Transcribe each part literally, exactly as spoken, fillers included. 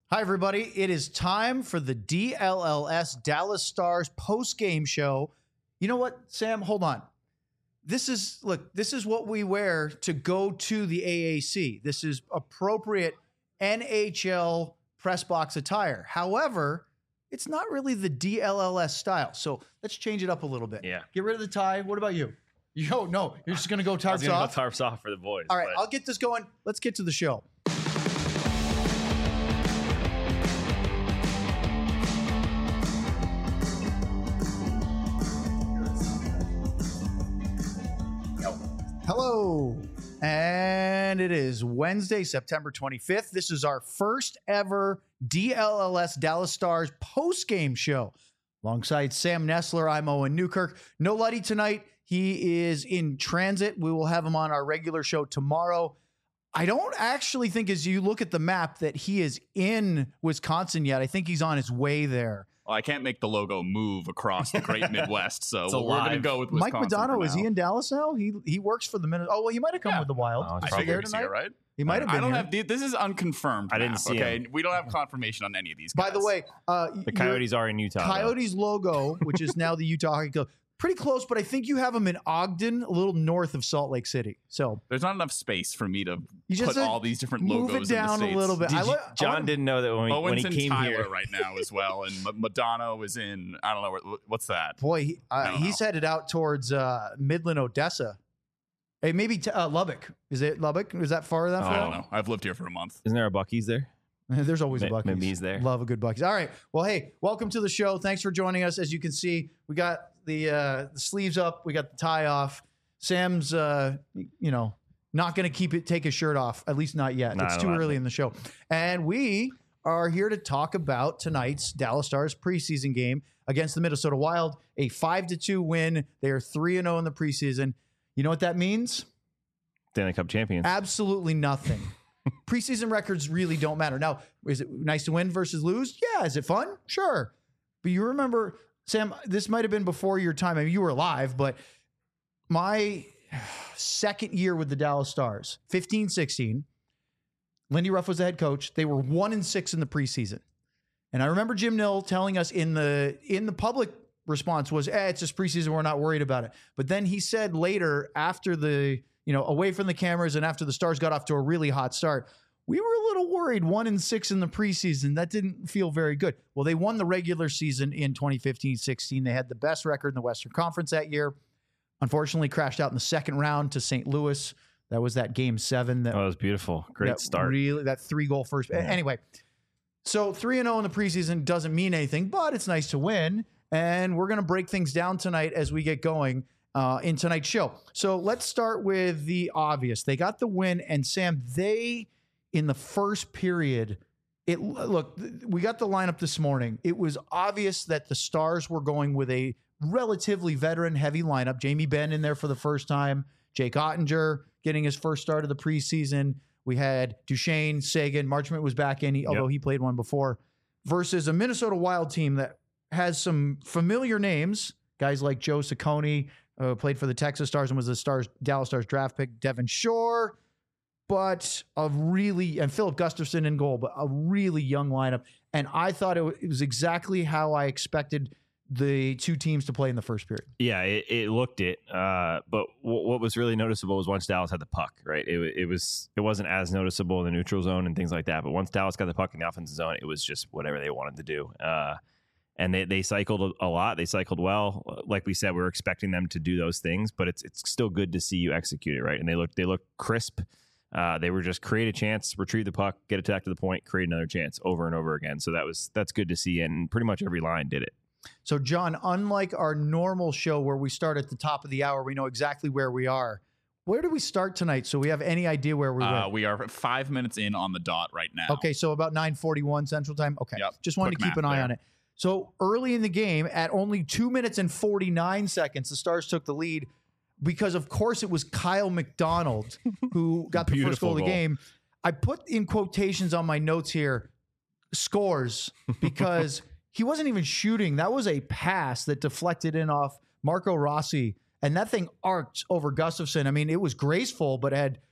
Hi, everybody. It is time for the D L L S Dallas Stars post-game show. You know what, Sam? Hold on. This is, look, this is what we wear to go to the A A C. This is appropriate N H L press box attire. However, it's not really the D L L S style. So let's change it up a little bit. Yeah. Get rid of the tie. What about you? Yo, no, you're just going to go I was tarps gonna off? go tarps off for the boys. All right, but I'll get this going. Let's get to the show. Hello, and it is Wednesday, September twenty-fifth. This is our first ever D L L S Dallas Stars post-game show. Alongside Sam Nestler, I'm Owen Newkirk. No Luddy tonight. He is in transit. We will have him on our regular show tomorrow. I don't actually think, as you look at the map, that he is in Wisconsin yet. I think he's on his way there. Well, I can't make the logo move across the great Midwest, so It's we're going to alive. go with Mike Wisconsin. Madonna, for is he now. in Dallas now? He he works for the Minnesota. Oh, well, he might have come Yeah. with the Wild. Oh, it's Is I he probably there figured he's tonight? here, right? He might have been I don't here. have the, this is unconfirmed. I didn't map, see okay? him. We don't have confirmation on any of these guys. By the way, uh, the your Coyotes are in Utah. though. Coyotes logo, which is now the Utah Hockey Club, pretty close, but I think you have them in Ogden, a little north of Salt Lake City. So there's not enough space for me to you just put uh, all these different move logos it down in the a States. little bit. Did I you- li- I John wanna- didn't know that when, we, when Owen's he in came Tyler here. right now as well, and M- Madonna was in, I don't know, where- what's that? Boy, he, uh, don't he's know. headed out towards uh, Midland, Odessa. Hey, maybe t- uh, Lubbock. Is it Lubbock? Is that far enough? Oh, I for don't that? know. I've lived here for a month. Isn't there a Buc-ee's there? There's always a Ma- Buc-ee's. maybe he's there. Love a good Buc-ee's. All right. Well, hey, welcome to the show. Thanks for joining us. As you can see, we got the uh, the sleeves up. We got the tie off. Sam's, uh, you know, not going to keep it, take his shirt off, at least not yet. Nah, it's I too don't early like in the show. And we are here to talk about tonight's Dallas Stars preseason game against the Minnesota Wild, a five to two win. They are three and oh in the preseason. You know what that means? Stanley Cup champions. Absolutely nothing. Preseason records really don't matter. Now, is it nice to win versus lose? Yeah. Is it fun? Sure. But you remember, Sam, this might have been before your time. I mean, you were alive, but my second year with the Dallas Stars, fifteen sixteen, Lindy Ruff was the head coach. They were one and six in the preseason. And I remember Jim Nill telling us in the in the public response was, eh, it's just preseason. We're not worried about it. But then he said later, after the, you know, away from the cameras and after the Stars got off to a really hot start, we were a little worried. One and six in the preseason. That didn't feel very good. Well, they won the regular season in twenty fifteen sixteen. They had the best record in the Western Conference that year. Unfortunately, crashed out in the second round to Saint Louis. That was that game seven. That Oh, it was beautiful. Great that start. Really, that three goal first. Yeah. Anyway, so three and zero in the preseason doesn't mean anything, but it's nice to win. And we're going to break things down tonight as we get going uh, in tonight's show. So let's start with the obvious. They got the win, and Sam, they in the first period. It look, we got the lineup this morning. It was obvious that the Stars were going with a relatively veteran heavy lineup. Jamie Benn in there for the first time. Jake Ottinger getting his first start of the preseason. We had Duchesne, Sagan, Marchment was back in, he, although he played one before, versus a Minnesota Wild team that has some familiar names, guys like Joe Ciccone, uh, played for the Texas Stars and was the Stars Dallas Stars draft pick, Devin Shore, but a really, and Philip Gustafson in goal, but a really young lineup. And I thought it, w- it was exactly how I expected the two teams to play in the first period. Yeah, it, it looked it. Uh, but w- what was really noticeable was once Dallas had the puck, right? It, wa- it was it wasn't as noticeable in the neutral zone and things like that. But once Dallas got the puck in the offensive zone, it was just whatever they wanted to do. Uh, and they they cycled a, a lot. They cycled well. Like we said, we were expecting them to do those things, but it's it's still good to see you execute it, right? And they look they look crisp. Uh, they were just create a chance, retrieve the puck, get attacked to the point, create another chance over and over again. So that was that's good to see, and pretty much every line did it. So, John, unlike our normal show where we start at the top of the hour, we know exactly where we are. Where do we start tonight so we have any idea where we Uh, went? we are five minutes in on the dot right now. Okay, so about nine forty-one Central Time. Okay, Yep, just wanted quick to keep an math eye there. on it. So early in the game, at only two minutes and forty-nine seconds, the Stars took the lead because, of course, it was Kyle McDonald who got the first Beautiful goal of the goal. game. I put in quotations on my notes here, scores, because he wasn't even shooting. That was a pass that deflected in off Marco Rossi, and that thing arced over Gustafson. I mean, it was graceful, but had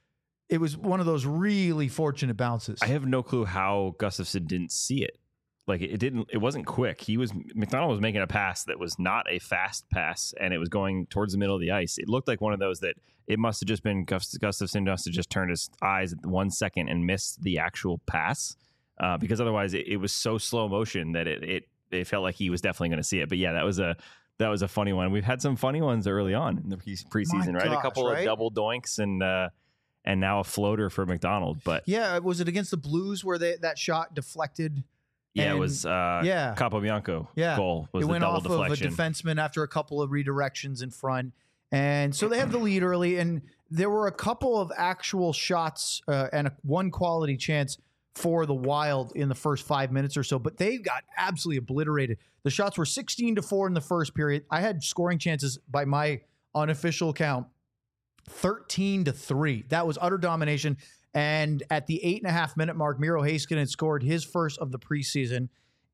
it was one of those really fortunate bounces. I have no clue how Gustafson didn't see it. Like it didn't, it wasn't quick. He was, McDonald was making a pass that was not a fast pass, and it was going towards the middle of the ice. It looked like one of those that it must have just been Gust- Gustafson must have just turned his eyes at one second and missed the actual pass, uh, because otherwise it, it was so slow motion that it, it, it felt like he was definitely going to see it. But yeah, that was a, that was a funny one. We've had some funny ones early on in the pre- preseason, My right? gosh, a couple right? of double doinks and, uh, and now a floater for McDonald. But yeah, was it against the Blues where they, that shot deflected? yeah, And- it was uh, yeah. Capobianco Yeah. goal was it the went double off deflection. of a defenseman after a couple of redirections in front. And so they have the lead early, and there were a couple of actual shots uh, and a, one quality chance for the Wild in the first five minutes or so, but they got absolutely obliterated. The shots were sixteen to four in the first period. I had scoring chances by my unofficial count, thirteen to three. That was utter domination. And at the eight and a half minute mark, Miro Heiskanen scored his first of the preseason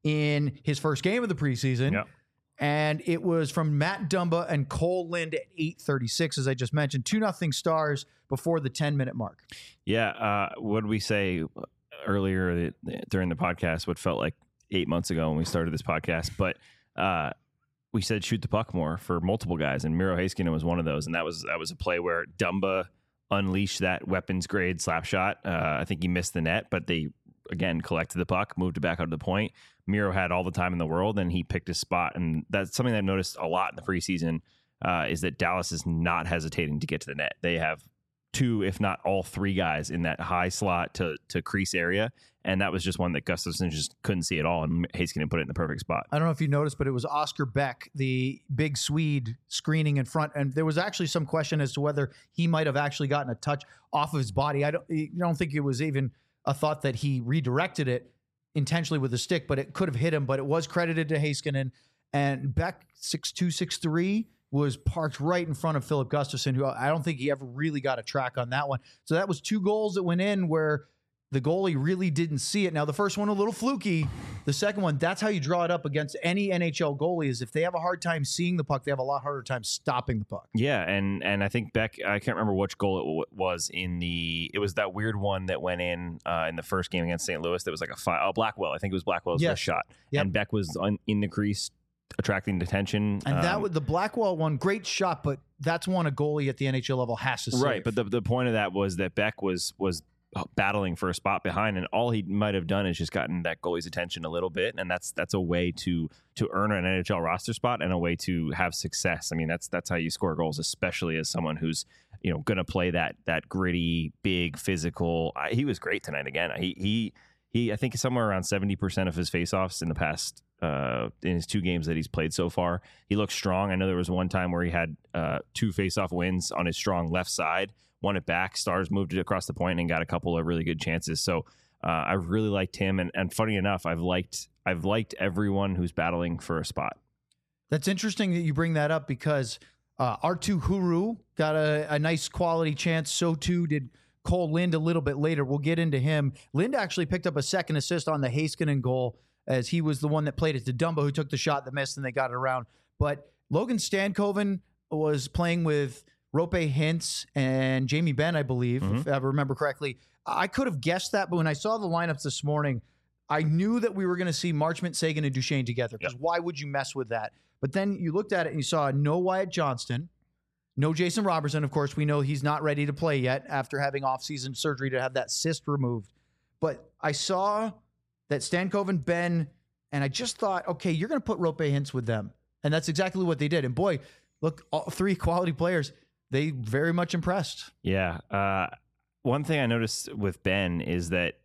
in his first game of the preseason. Yep. And it was from Matt Dumba and Cole Lind at eight thirty-six, as I just mentioned, two nothing Stars before the ten minute mark. Yeah. Uh, what did we say earlier during the podcast? What felt like eight months ago when we started this podcast, but uh, we said shoot the puck more for multiple guys, and Miro Heiskanen was one of those. And that was that was a play where Dumba unleashed that weapons grade slap shot. Uh, I think he missed the net, but they again collected the puck, moved it back out to the point. Miro had all the time in the world, and he picked his spot. And that's something that I've noticed a lot in the preseason uh, is that Dallas is not hesitating to get to the net. They have two, if not all three guys in that high slot to to crease area. And that was just one that Gustafson just couldn't see at all. And Heiskanen put it in the perfect spot. I don't know if you noticed, but it was Oscar Beck, the big Swede, screening in front. And there was actually some question as to whether he might have actually gotten a touch off of his body. I don't, I don't think it was even a thought that he redirected it intentionally with a stick, but it could have hit him. But it was credited to Heiskanen. And Beck, six two, six three, was parked right in front of Philip Gustafson, who I don't think he ever really got a track on that one. So that was two goals that went in where the goalie really didn't see it. Now, the first one, a little fluky. The second one, that's how you draw it up against any N H L goalie, is if they have a hard time seeing the puck, they have a lot harder time stopping the puck. Yeah, and and I think Beck, I can't remember which goal it w- was in the, it was that weird one that went in uh, in the first game against Saint Louis that was like a five, oh, Blackwell. I think it was Blackwell's Yes. wrist shot. Yep. And Beck was on, in the crease, attracting attention. And that Um, was the Blackwell one, great shot, but that's one a goalie at the N H L level has to save. Right, but the the point of that was that Beck was was battling for a spot behind, and all he might have done is just gotten that goalie's attention a little bit, and that's that's a way to to earn an N H L roster spot and a way to have success. I mean, that's that's how you score goals, especially as someone who's you know going to play that that gritty, big, physical. I, he was great tonight again. He he he. I think somewhere around seventy percent of his faceoffs in the past. Uh, in his two games that he's played so far, he looks strong. I know there was one time where he had uh, two faceoff wins on his strong left side, won it back. Stars moved it across the point and got a couple of really good chances. So uh, I really liked him. And, and funny enough, I've liked I've liked everyone who's battling for a spot. That's interesting that you bring that up because uh, Arttu Huru got a, a nice quality chance. So too did Cole Lind a little bit later. We'll get into him. Lind actually picked up a second assist on the Heiskanen goal, as he was the one that played it to Dumba, who took the shot that missed, and they got it around. But Logan Stankoven was playing with Rope Hintz and Jamie Benn, I believe, Mm-hmm. if I remember correctly. I could have guessed that, but when I saw the lineups this morning, I knew that we were going to see Marchment, Sagan, and Duchesne together, because Yep. why would you mess with that? But then you looked at it and you saw no Wyatt Johnston, no Jason Robertson. Of course, we know he's not ready to play yet after having offseason surgery to have that cyst removed. But I saw that Stankoven, Ben, and I just thought, okay, you're going to put Rope Hintz with them. And that's exactly what they did. And boy, look, all three quality players, they very much impressed. Yeah. Uh, one thing I noticed with Ben is that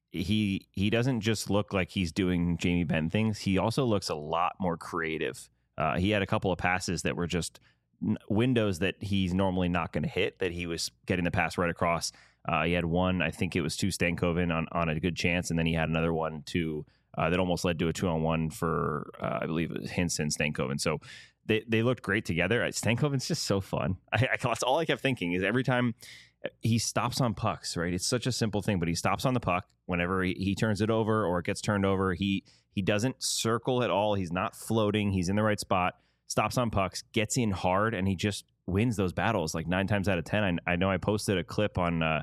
he he doesn't just look like he's doing Jamie Benn things. He also looks a lot more creative. Uh, he had a couple of passes that were just n- windows that he's normally not going to hit, that he was getting the pass right across. Uh, he had one, I think it was to Stankoven on, on a good chance, and then he had another one to uh, that almost led to a two-on-one for, uh, I believe it was Hintz and Stankoven. So they, they looked great together. Stankoven's just so fun. I, I, that's all I kept thinking is every time he stops on pucks, right? It's such a simple thing, but he stops on the puck whenever he, he turns it over or it gets turned over. He he doesn't circle at all. He's not floating. He's in the right spot, stops on pucks, gets in hard, and he just wins those battles like nine times out of ten. I, I know I posted a clip on uh,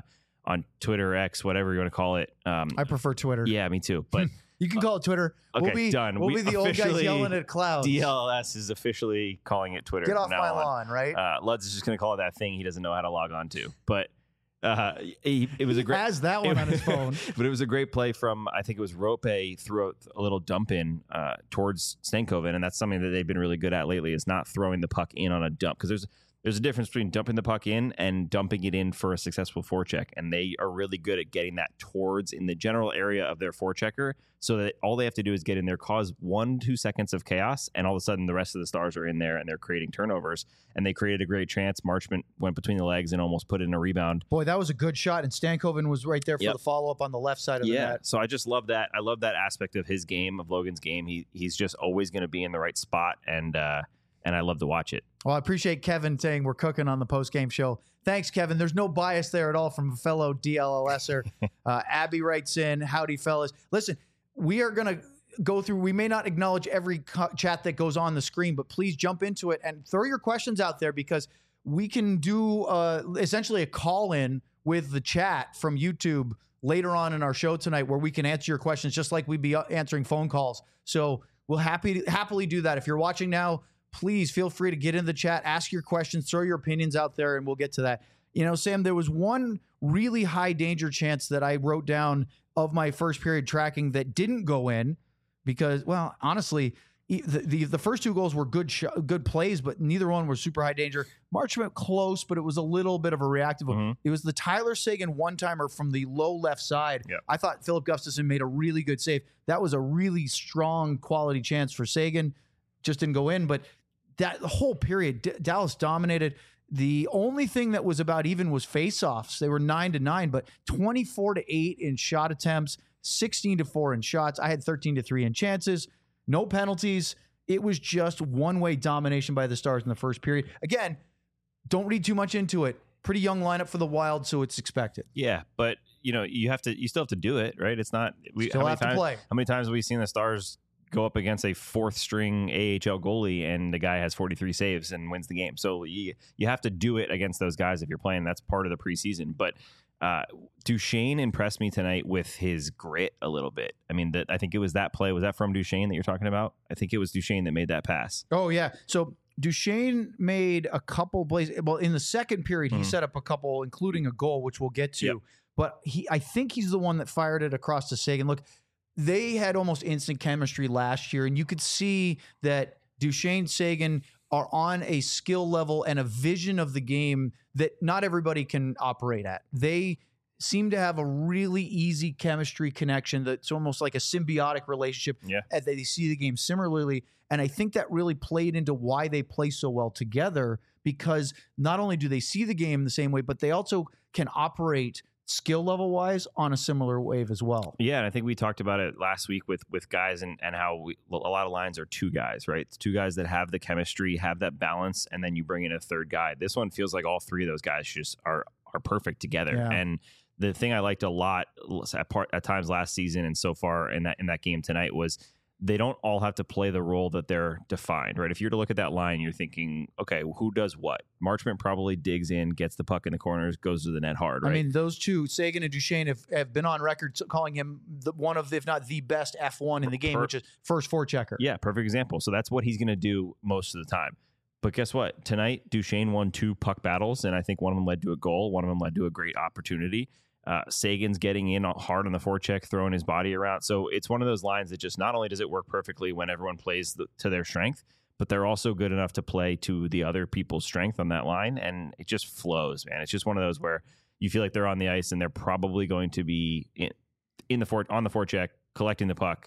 on Twitter, X, whatever you want to call it. Um, I prefer Twitter. yeah, me too. But You can call it Twitter. okay, we'll be done. We'll We be the old guys officially- yelling at clouds. D L L S is officially calling it Twitter. Get off from now my on. lawn, right? Uh, Lutz is just going to call it that thing he doesn't know how to log on to. But uh, he, it was a great. Has that one on his phone. But it was a great play from, I think it was Rope threw a little dump in uh, towards Stankoven, and that's something that they've been really good at lately, is not throwing the puck in on a dump, because there's there's a difference between dumping the puck in and dumping it in for a successful forecheck, and they are really good at getting that towards in the general area of their forechecker, so that all they have to do is get in there, cause one, two seconds of chaos, and all of a sudden the rest of the Stars are in there and they're creating turnovers, and they created a great chance. Marchment went between the legs and almost put in a rebound. Boy, that was a good shot, and Stankoven was right there for Yep. the follow-up on the left side of the Yeah, net. so I just love that. I love that aspect of his game, of Logan's game. He he's just always going to be in the right spot, and uh, and I love to watch it. Well, I appreciate Kevin saying we're cooking on the post-game show. Thanks, Kevin. There's no bias there at all from a fellow D L L S-er. uh, Abby writes in, howdy, fellas. Listen, we are going to go through, we may not acknowledge every co- chat that goes on the screen, but please jump into it and throw your questions out there, because we can do uh, essentially a call-in with the chat from YouTube later on in our show tonight, where we can answer your questions just like we'd be answering phone calls. So we'll happy happily do that. If you're watching now, please feel free to get in the chat, ask your questions, throw your opinions out there, and we'll get to that. You know, Sam, there was one really high danger chance that I wrote down of my first period tracking that didn't go in because, well, honestly, e- the the, the first two goals were good sh- good plays, but neither one was super high danger. March went close, but it was a little bit of a reactive one. Mhm. It was the Tyler Seguin one-timer from the low left side. Yep. I thought Philip Gustafson made a really good save. That was a really strong quality chance for Seguin. Just didn't go in, but that the whole period, D- Dallas dominated. The only thing that was about even was faceoffs. They were nine to nine, but twenty-four to eight in shot attempts, sixteen to four in shots. I had thirteen to three in chances, no penalties. It was just one-way domination by the Stars in the first period. Again, don't read too much into it. Pretty young lineup for the Wild, so it's expected. Yeah, but you know, you have to, you still have to do it, right? It's not. We Still how many have to times, play. How many times have we seen the Stars go up against a fourth string A H L goalie and the guy has forty-three saves and wins the game? So you you have to do it against those guys if you're playing. That's part of the preseason. But uh, Duchesne impressed me tonight with his grit a little bit. I mean, that I think it was that play. Was that from Duchesne that you're talking about? I think it was Duchesne that made that pass. Oh, yeah. So Duchesne made a couple plays. Well, in the second period, he Mhm. set up a couple, including a goal, which we'll get to. Yep. But he, I think he's the one that fired it across to Seguin. Look, they had almost instant chemistry last year, and you could see that Duchesne, Seguin are on a skill level and a vision of the game that not everybody can operate at. They seem to have a really easy chemistry connection that's almost like a symbiotic relationship. Yeah. And they see the game similarly. And I think that really played into why they play so well together, because not only do they see the game the same way, but they also can operate skill level wise on a similar wave as well. Yeah, and I think we talked about it last week with with guys and, and how we, a lot of lines are two guys, right? It's two guys that have the chemistry, have that balance, and then you bring in a third guy. This one feels like all three of those guys just are are perfect together. Yeah. And the thing I liked a lot at part at times last season and so far in that in that game tonight was they don't all have to play the role that they're defined, right? If you're to look at that line, you're thinking, okay, who does what? Marchment probably digs in, gets the puck in the corners, goes to the net hard, right? I mean, those two, Seguin and Duchesne, have, have been on record calling him the, one of, if not the best F one in the game, Per- which is first forechecker. Yeah, perfect example. So that's what he's going to do most of the time. But guess what? Tonight, Duchesne won two puck battles, and I think one of them led to a goal. One of them led to a great opportunity. Uh, Sagan's getting in hard on the forecheck, throwing his body around. So it's one of those lines that just not only does it work perfectly when everyone plays the, to their strength, but they're also good enough to play to the other people's strength on that line, and it just flows, man. It's just one of those where you feel like they're on the ice and they're probably going to be in, in the fore, on the forecheck, collecting the puck,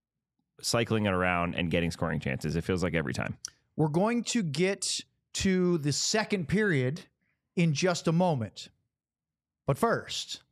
cycling it around, and getting scoring chances. It feels like every time. We're going to get to the second period in just a moment. But first,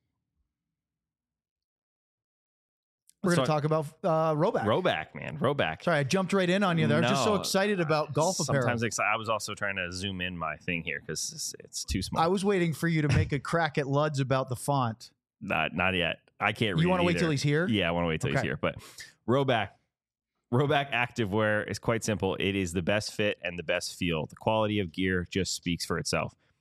we're going to So- talk about uh, Roback. Roback, man. Roback. Sorry, I jumped right in on you there. I'm just so No. excited about golf apparel. Sometimes exci- I was also trying to zoom in my thing here because it's, it's too small. I was waiting for you to make a crack at Luds about the font. not not yet. I can't read You want to wait till he's here? Yeah, I want to wait till Okay. he's here. But Roback, Roback Activewear is quite simple. It is the best fit and the best feel. The quality of gear just speaks for itself.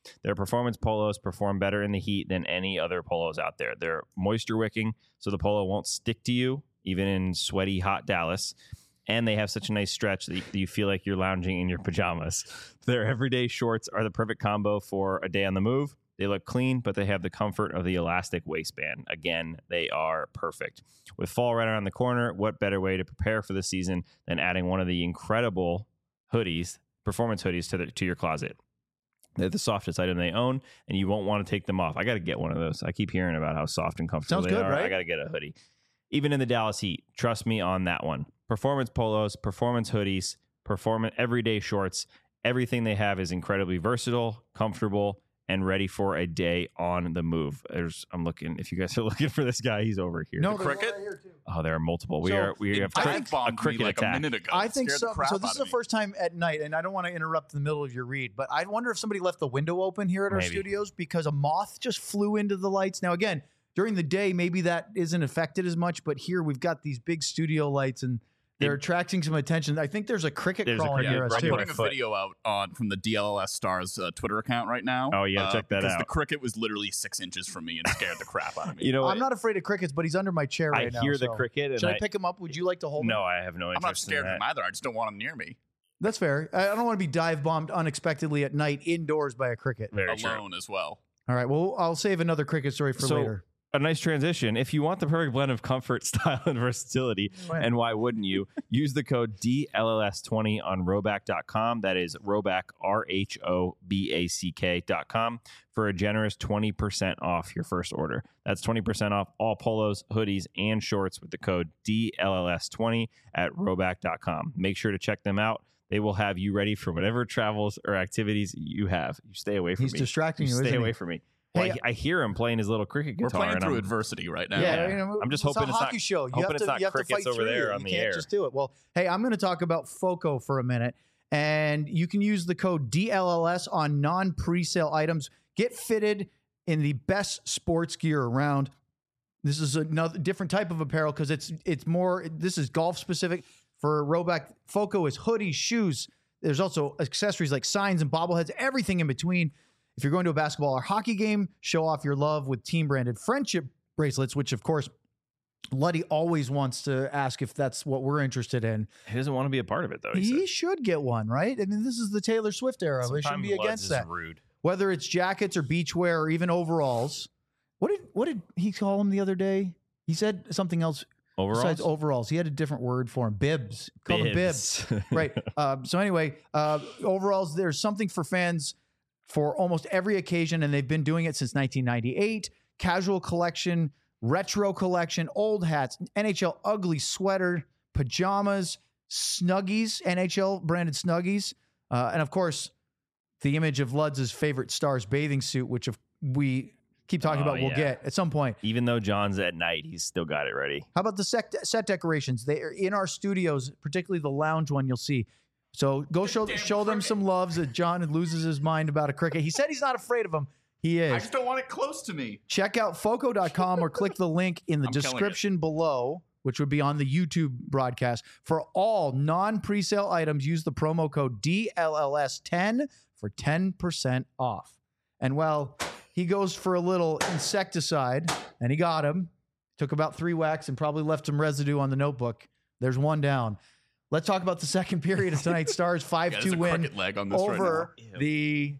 Their performance polos perform better in the heat than any other polos out there. They're moisture wicking, so the polo won't stick to you, even in sweaty, hot Dallas. And they have such a nice stretch that you, that you feel like you're lounging in your pajamas. Their everyday shorts are the perfect combo for a day on the move. They look clean, but they have the comfort of the elastic waistband. Again, they are perfect. With fall right around the corner, what better way to prepare for the season than adding one of the incredible hoodies, performance hoodies, to, the, to your closet? They're the softest item they own, and you won't want to take them off. I got to get one of those. I keep hearing about how soft and comfortable Sounds they good, are. right? I got to get a hoodie. Even in the Dallas heat, trust me on that one. Performance polos, performance hoodies, performance everyday shorts. Everything they have is incredibly versatile, comfortable, and ready for a day on the move. There's, I'm looking. If you guys are looking for this guy, he's over here. No, The there's one cricket? right here, too. Oh, there are multiple. We So, are. We It have I crick- think- a bombed me cricket like attack. a minute ago. I It think scared so. the crap So this out is the of me. first time at night, and I don't want to interrupt the middle of your read, but I wonder if somebody left the window open here at our Maybe. studios because a moth just flew into the lights. Now, again, during the day, maybe that isn't affected as much, but here we've got these big studio lights, and they're It- attracting some attention. I think there's a cricket There's a crawling cricket near us right I'm too. here. putting a Foot. video out on from the D L L S Stars uh, Twitter account right now. Oh, you gotta uh, check that because out. the cricket was literally six inches from me and scared the crap out of me. You know, I'm not afraid of crickets, but he's under my chair I right now. hear the so- cricket, and Should I, I, pick him up? Would you like to hold him? no, I have no I'm interest not scared in of that. him either. I just don't want him near me That's fair. I I don't want to be dive bombed unexpectedly at night indoors by a cricket. Very true. alone as well. All right. Well, I'll save another cricket story for So- later. A nice transition. If you want the perfect blend of comfort, style, and versatility, Right. and why wouldn't you, use the code D L L S twenty on roback dot com. That is Roback, R H O B A C K dot com, for a generous twenty percent off your first order. That's twenty percent off all polos, hoodies, and shorts with the code D L L S twenty at roback dot com. Make sure to check them out. They will have you ready for whatever travels or activities you have. You stay away from He's me. distracting You you, stay isn't away he? from me. Well, Hey, I, I hear him playing his little cricket We're guitar. playing and through I'm- adversity right now. Yeah, Yeah. you know, I'm just it's hoping a it's not- hockey show. You hoping have it's to, not you have to crickets fight over through there it. on You the can't air. just do it. Well, hey, I'm going to talk about FOCO for a minute, and you can use the code D L L S on non-presale items. Get fitted in the best sports gear around. This is another different type of apparel because it's it's more. This is golf specific. For Roback, FOCO is hoodies, shoes. There's also accessories like signs and bobbleheads, everything in between. If you're going to a basketball or hockey game, show off your love with team-branded friendship bracelets, which, of course, Luddy always wants to ask if that's what we're interested in. He doesn't want to be a part of it, though. He, He said. should get one, right? I mean, this is the Taylor Swift era. We shouldn't Sometimes be Lutz against is that. Rude. Whether it's jackets or beachwear or even overalls. What did what did he call them the other day? He said something else Overalls? besides overalls. He had a different word for them. Bibs. He called them bibs. Right. Um, so anyway, uh, overalls, there's something for fans for almost every occasion, and they've been doing it since nineteen ninety-eight. Casual collection, retro collection, old hats, N H L ugly sweater, pajamas, Snuggies, N H L branded Snuggies, uh, and of course, the image of Ludz's favorite Stars bathing suit, which of, we keep talking Oh, about we'll yeah. get at some point. Even though John's at night, he's still got it ready. How about the set, set decorations? They are in our studios, particularly the lounge one you'll see. So go show show them some loves that John loses his mind about a cricket. He said he's not afraid of them. He I is. just don't want it close to me. Check out foco dot com or click the link in the I'm killing it. description below, which would be on the YouTube broadcast. For all non-presale items, use the promo code D L L S ten for ten percent off. And well, he goes for a little insecticide, and he got him. Took about three whacks and probably left some residue on the notebook. There's one down. Let's talk about the second period of tonight's Stars Yeah, five there's two a win cricket leg on this over right now. the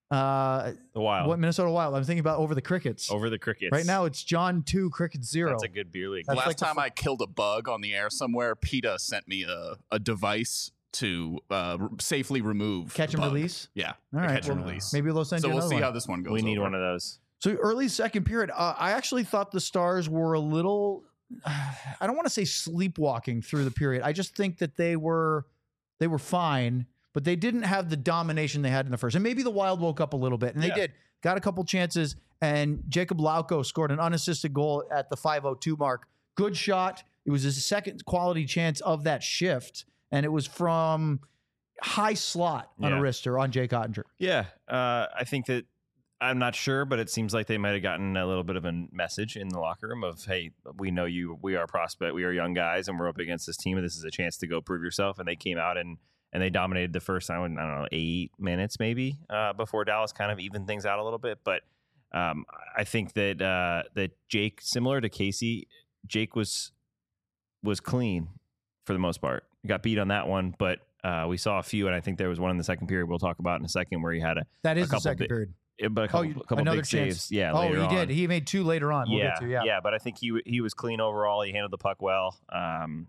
uh, The Wild. what Minnesota Wild. I'm thinking about over the Crickets. Over the Crickets. Right now, it's John two, Cricket zero. That's a good beer league. That's Last like the time fu- I killed a bug on the air somewhere, PETA sent me a, a device to uh, r- safely remove Catch the and bug. release. Yeah, All the right, catch and well, release. Maybe they'll send so you we'll another see one. how this one goes. we need over. one of those. So early second period, uh, I actually thought the Stars were a little. I don't want to say sleepwalking through the period. I just think that they were they were fine, but they didn't have the domination they had in the first. And maybe the Wild woke up a little bit, and they Yeah. did. Got a couple chances, and Jacob Lauko scored an unassisted goal at the five oh two mark. Good shot. It was his second quality chance of that shift, and it was from high slot on Yeah. a wrister on Jake Ottinger. Yeah. Uh, I think that I'm not sure, but it seems like they might have gotten a little bit of a message in the locker room of, hey, we know you, we are a prospect, we are young guys, and we're up against this team, and this is a chance to go prove yourself. And they came out and and they dominated the first time. I don't know, eight minutes maybe uh, before Dallas kind of evened things out a little bit. But um, I think that uh, that Jake, similar to Casey, Jake was was clean for the most part. He got beat on that one, but uh, we saw a few, and I think there was one in the second period we'll talk about in a second where he had a That is a the second bit, period. It, but a couple, oh, you, couple another big chance. saves. Yeah. Oh, later he on. did. He made two later on. We'll yeah, get to, yeah. Yeah. But I think he he was clean overall. He handled the puck well. Um,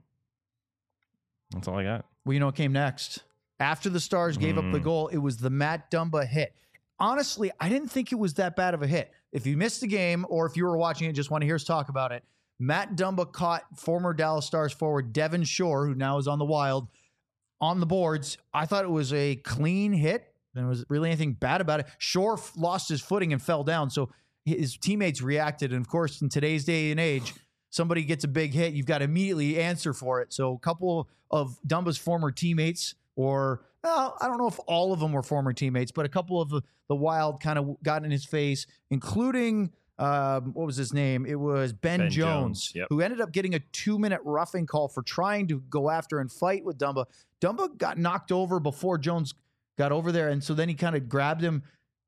that's all I got. Well, you know what came next? After the Stars gave Mm. up the goal, it was the Matt Dumba hit. Honestly, I didn't think it was that bad of a hit. If you missed the game or if you were watching it and just want to hear us talk about it, Matt Dumba caught former Dallas Stars forward Devin Shore, who now is on the Wild, on the boards. I thought it was a clean hit. There was really anything bad about it. Shore f- lost his footing and fell down, so his teammates reacted. And of course, in today's day and age, somebody gets a big hit, you've got to immediately answer for it. So a couple of Dumba's former teammates, or well, I don't know if all of them were former teammates, but a couple of the, the Wild kind of got in his face, including um, what was his name? It was Ben, Ben Jones, Jones, yep. who ended up getting a two-minute roughing call for trying to go after and fight with Dumba. Dumba got knocked over before Jones got over there, and so then he kind of grabbed him.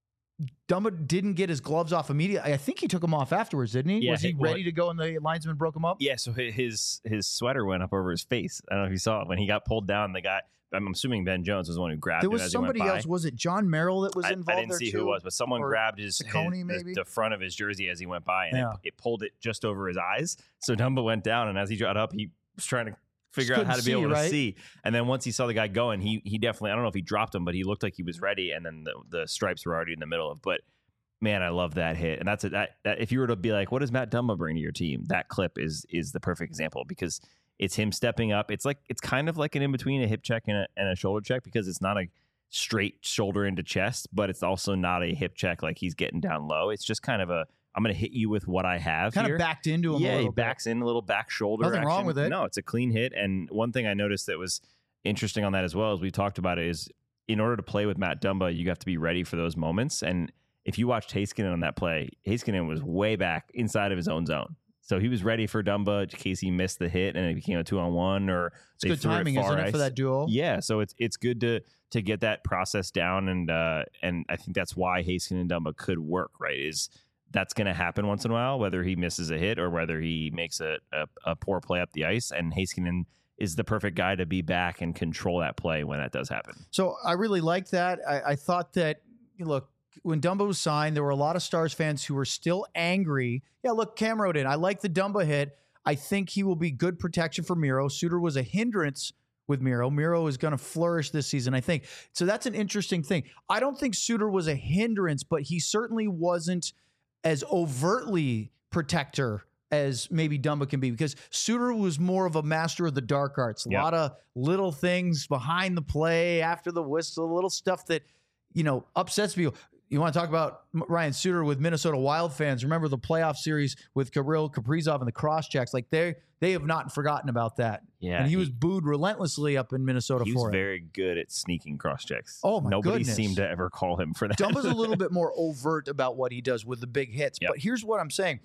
Dumba didn't get his gloves off immediately. I think he took them off afterwards, didn't he? Yeah, was he well, ready to go and the linesman broke him up? Yeah, so hi- his his sweater went up over his face. I don't know if you saw it. When he got pulled down, the guy, I'm assuming Ben Jones was the one who grabbed There him was as somebody he went by. else. Was it John Merrill that was I, involved I didn't there see too? who it was, but someone Or grabbed his, his Ciccone, the, maybe? the front of his jersey as he went by, and Yeah. it, it pulled it just over his eyes. So Dumba went down, and as he got up, he was trying to figure Just out how to couldn't be able see, to right? see. And then once he saw the guy going, he he definitely, I don't know if he dropped him, but he looked like he was ready, and then the, the stripes were already in the middle of. But man, I love that hit, and that's a, that, that. If you were to be like, what does Matt Dumba bring to your team? That clip is is the perfect example, because it's him stepping up. It's like it's kind of like an in between a hip check and a, and a shoulder check, because it's not a straight shoulder into chest, but it's also not a hip check like he's getting down low. It's just kind of a, I'm going to hit you with what I have Kind here. of backed into him a Yeah, little he bit. backs in a little back shoulder. Nothing wrong action. with it. No, it's a clean hit. And one thing I noticed that was interesting on that as well, as we talked about it, is in order to play with Matt Dumba, you have to be ready for those moments. And if you watched Heiskanen on that play, Heiskanen was way back inside of his own zone. So he was ready for Dumba in case he missed the hit and it became a two on one, or It's good timing, isn't it, for that duo? Yeah, so it's it's good to to get that process down, and uh, and I think that's why Heiskanen and Dumba could work, right? Is that's going to happen once in a while, whether he misses a hit or whether he makes a, a, a poor play up the ice, and Heiskanen is the perfect guy to be back and control that play when that does happen. So I really like that. I, I thought that, look, when Dumba was signed, there were a lot of Stars fans who were still angry. Yeah, look, Cam wrote in, I like the Dumba hit. I think he will be good protection for Miro. Suter was a hindrance with Miro. Miro is going to flourish this season, I think. So that's an interesting thing. I don't think Suter was a hindrance, but he certainly wasn't as overtly protector as maybe Dumba can be, because Suter was more of a master of the dark arts. A Yep. lot of little things behind the play, after the whistle, little stuff that, you know, upsets people. You want to talk about Ryan Suter with Minnesota Wild fans? Remember the playoff series with Kirill Kaprizov and the cross checks? Like they they have not forgotten about that. Yeah, and he, he- was booed relentlessly up in Minnesota He for was it. very good at sneaking cross checks. Oh, my Nobody goodness. seemed to ever call him for that. Dumba's a little bit more overt about what he does with the big hits. Yep. But here's what I'm saying.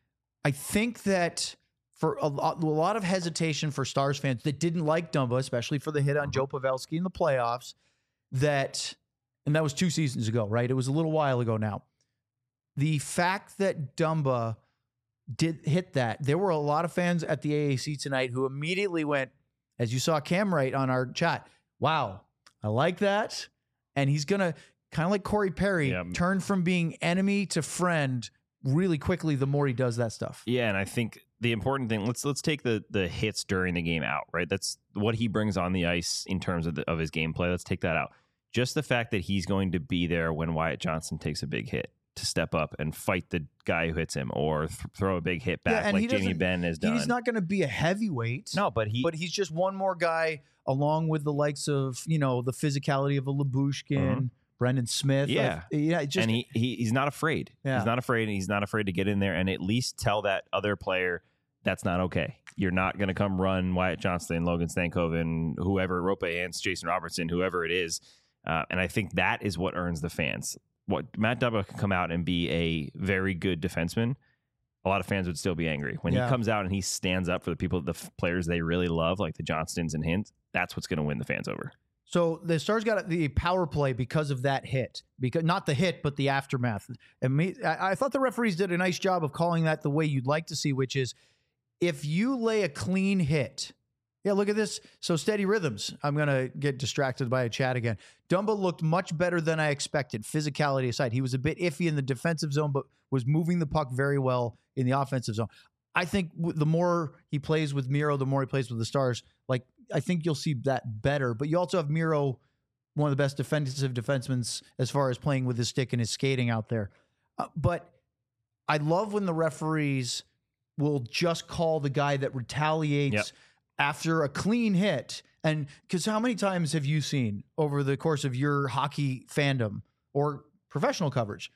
I think that for a lot, a lot of hesitation for Stars fans that didn't like Dumba, especially for the hit on Joe Pavelski in the playoffs, that, and that was two seasons ago, right? It was a little while ago now. The fact that Dumba did hit that, there were a lot of fans at the A A C tonight who immediately went, as you saw Cam write on our chat, wow, I like that. And he's going to, kind of like Corey Perry, Yeah. turn from being enemy to friend really quickly the more he does that stuff. Yeah, and I think the important thing, let's let's take the the hits during the game out, right? That's what he brings on the ice in terms of the, of his gameplay. Let's take that out. Just the fact that he's going to be there when Wyatt Johnson takes a big hit to step up and fight the guy who hits him, or th- throw a big hit back and he like Jamie doesn't- Benn has done. He's not going to be a heavyweight. no, but he But he's just one more guy along with the likes of, you know, the physicality of a Labushkin, Mhm. Brendan Smith. Yeah. I- yeah. Just, and he, he he's not afraid. Yeah. He's not afraid, and he's not afraid to get in there and at least tell that other player that's not okay. You're not going to come run Wyatt Johnston, Logan Stankoven, whoever, Rope Ants, Jason Robertson, whoever it is. Uh, and I think that is what earns the fans. What Matt Dumba can come out and be a very good defenseman, a lot of fans would still be angry. When Yeah. he comes out and he stands up for the people, the f- players they really love, like the Johnstons and Hint, that's what's going to win the fans over. So the Stars got the power play because of that hit, because not the hit, but the aftermath. And me, I, I thought the referees did a nice job of calling that the way you'd like to see, which is if you lay a clean hit. Yeah, look at this. So steady rhythms. I'm going to get distracted by a chat again. Dumba looked much better than I expected, physicality aside. He was a bit iffy in the defensive zone, but was moving the puck very well in the offensive zone. I think the more he plays with Miro, the more he plays with the Stars. Like, I think you'll see that better. But you also have Miro, one of the best defensive defensemen as far as playing with his stick and his skating out there. Uh, but I love when the referees will just call the guy that retaliates Yep. after a clean hit. And because how many times have you seen over the course of your hockey fandom or professional coverage,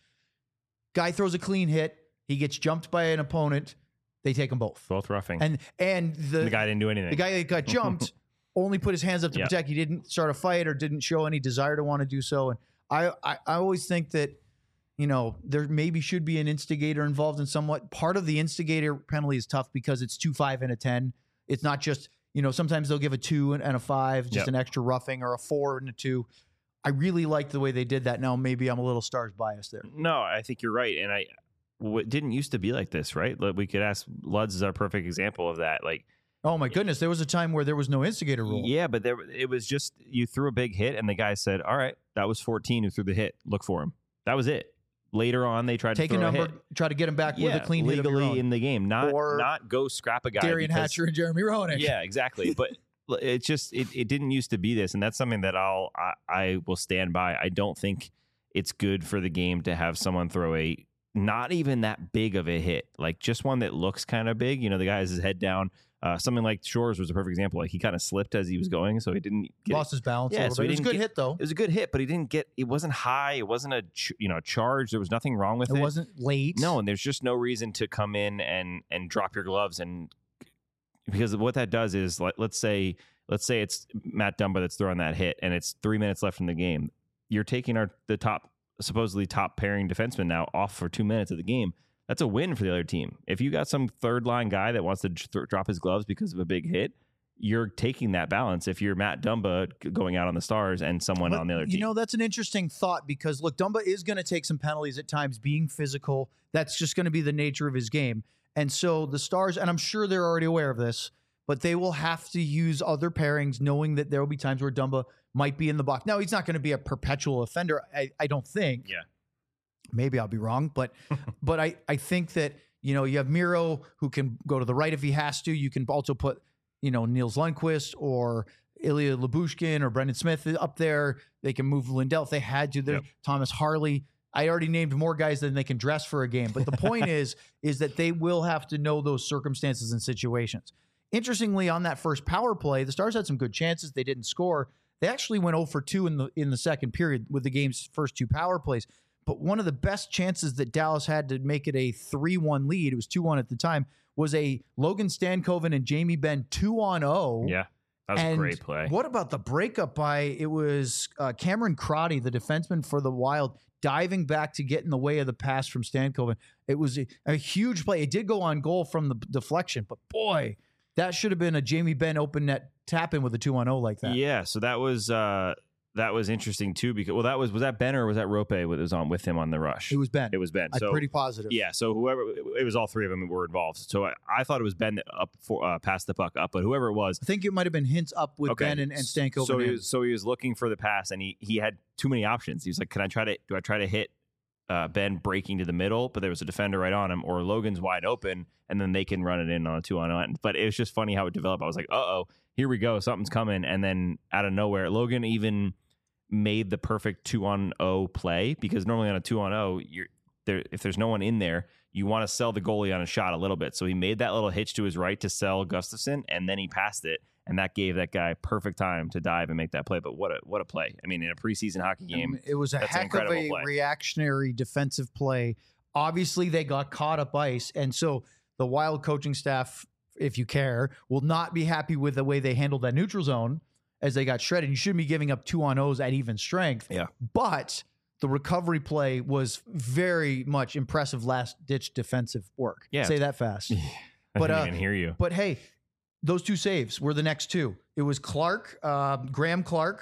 guy throws a clean hit, he gets jumped by an opponent, they take them both. Both roughing. And and the, the guy didn't do anything. the guy that got jumped only put his hands up to Yep. protect. He didn't start a fight or didn't show any desire to want to do so. And I, I, I always think that, you know, there maybe should be an instigator involved in somewhat. Part of the instigator penalty is tough because it's two, five, and a ten. It's not just, you know, sometimes they'll give a two and, and a five, just Yep. an extra roughing, or a four and a two. I really liked the way they did that. Now maybe I'm a little Stars biased there. No, I think you're right. And I, well, it didn't used to be like this, right? Like, we could ask, Luds is our perfect example of that. Like, Oh my goodness, there was a time where there was no instigator rule. yeah, but there it was just you threw a big hit, and the guy said, "All right, that was fourteen who threw the hit. Look for him." That was it. Later on, they tried Take to a throw number, a hit. try to get him back with Yeah, a clean hit of your legally own. in the game, not Or not go scrap a guy. Darian because- Hatcher and Jeremy Roenick. Yeah, exactly. But it just it, it didn't used to be this, and that's something that I'll I, I will stand by. I don't think it's good for the game to have someone throw a not even that big of a hit, like just one that looks kind of big. You know, the guy has his head down. Uh, something like Shores was a perfect example. Like, he kind of slipped as he was going, so he didn't get Lost his balance Yeah, a little so he bit. It was a didn't good get- hit, though. It was a good hit, but he didn't get. It wasn't high. It wasn't a ch- you know charge. There was nothing wrong with It it. wasn't late. No, and there's just no reason to come in and and drop your gloves, and because what that does is, let, let's say let's say it's Matt Dumba that's throwing that hit, and it's three minutes left in the game. You're taking our the top supposedly top pairing defenseman now off for two minutes of the game. That's a win for the other team. If you got some third line guy that wants to th- drop his gloves because of a big hit, you're taking that balance. If you're Matt Dumba g- going out on the Stars and someone But, on the other you team, know, that's an interesting thought because, look, Dumba is going to take some penalties at times, being physical. That's just going to be the nature of his game. And so the Stars, and I'm sure they're already aware of this, but they will have to use other pairings knowing that there will be times where Dumba might be in the box. Now, he's not going to be a perpetual offender, I, I don't think. Yeah. Maybe I'll be wrong, but but I, I think that, you know, you have Miro who can go to the right if he has to. You can also put, you know, Niels Lundqvist or Ilya Lyubushkin or Brendan Smith up there. They can move Lindell if they had to. There's Yep. Thomas Harley. I already named more guys than they can dress for a game. But the point is, is that they will have to know those circumstances and situations. Interestingly, on that first power play, the Stars had some good chances. They didn't score. They actually went oh for two in the in the second period with the game's first two power plays. But one of the best chances that Dallas had to make it a three one lead, it was two one at the time, was a Logan Stankoven and Jamie Benn two on oh. yeah, that was And a great play. What about the breakup by, it was uh, Cameron Crotty, the defenseman for the Wild, diving back to get in the way of the pass from Stankoven. It was a, a huge play. It did go on goal from the deflection, but boy, that should have been a Jamie Benn open net tap in with a two on oh like that. Yeah, so that was uh, that was interesting too, because well, that was was that Ben or was that Rope that was on with him on the rush? It was Ben. It was Ben. I'm So pretty positive. yeah, so whoever it was, all three of them were involved. So I, I thought it was Ben that up for uh, passed the puck up, but whoever it was, I think it might have been hints up with okay. Ben and, and Stankoven. So he in. was, so he was looking for the pass, and he he had too many options. He was like, "Can I try to do I try to hit uh, Ben breaking to the middle?" But there was a defender right on him, or Logan's wide open, and then they can run it in on a two on one. But it was just funny how it developed. I was like, "Uh oh, here we go, something's coming," and then out of nowhere, Logan even made the perfect two on oh play, because normally on a two on oh, you're there if there's no one in there, you want to sell the goalie on a shot a little bit. So he made that little hitch to his right to sell Gustafsson, and then he passed it, and that gave that guy perfect time to dive and make that play. But what a what a play! I mean, in a preseason hockey game, it was a that's an heck of a incredible play. reactionary defensive play. Obviously, they got caught up ice, and so the Wild coaching staff, if you care, will not be happy with the way they handled that neutral zone as they got shredded. You shouldn't be giving up two on O's at even strength. Yeah. But the recovery play was very much impressive last ditch defensive work. Yeah. Say that fast. I But, didn't uh, even hear you. But hey, those two saves were the next two. It was Clark, uh, Graham Clark,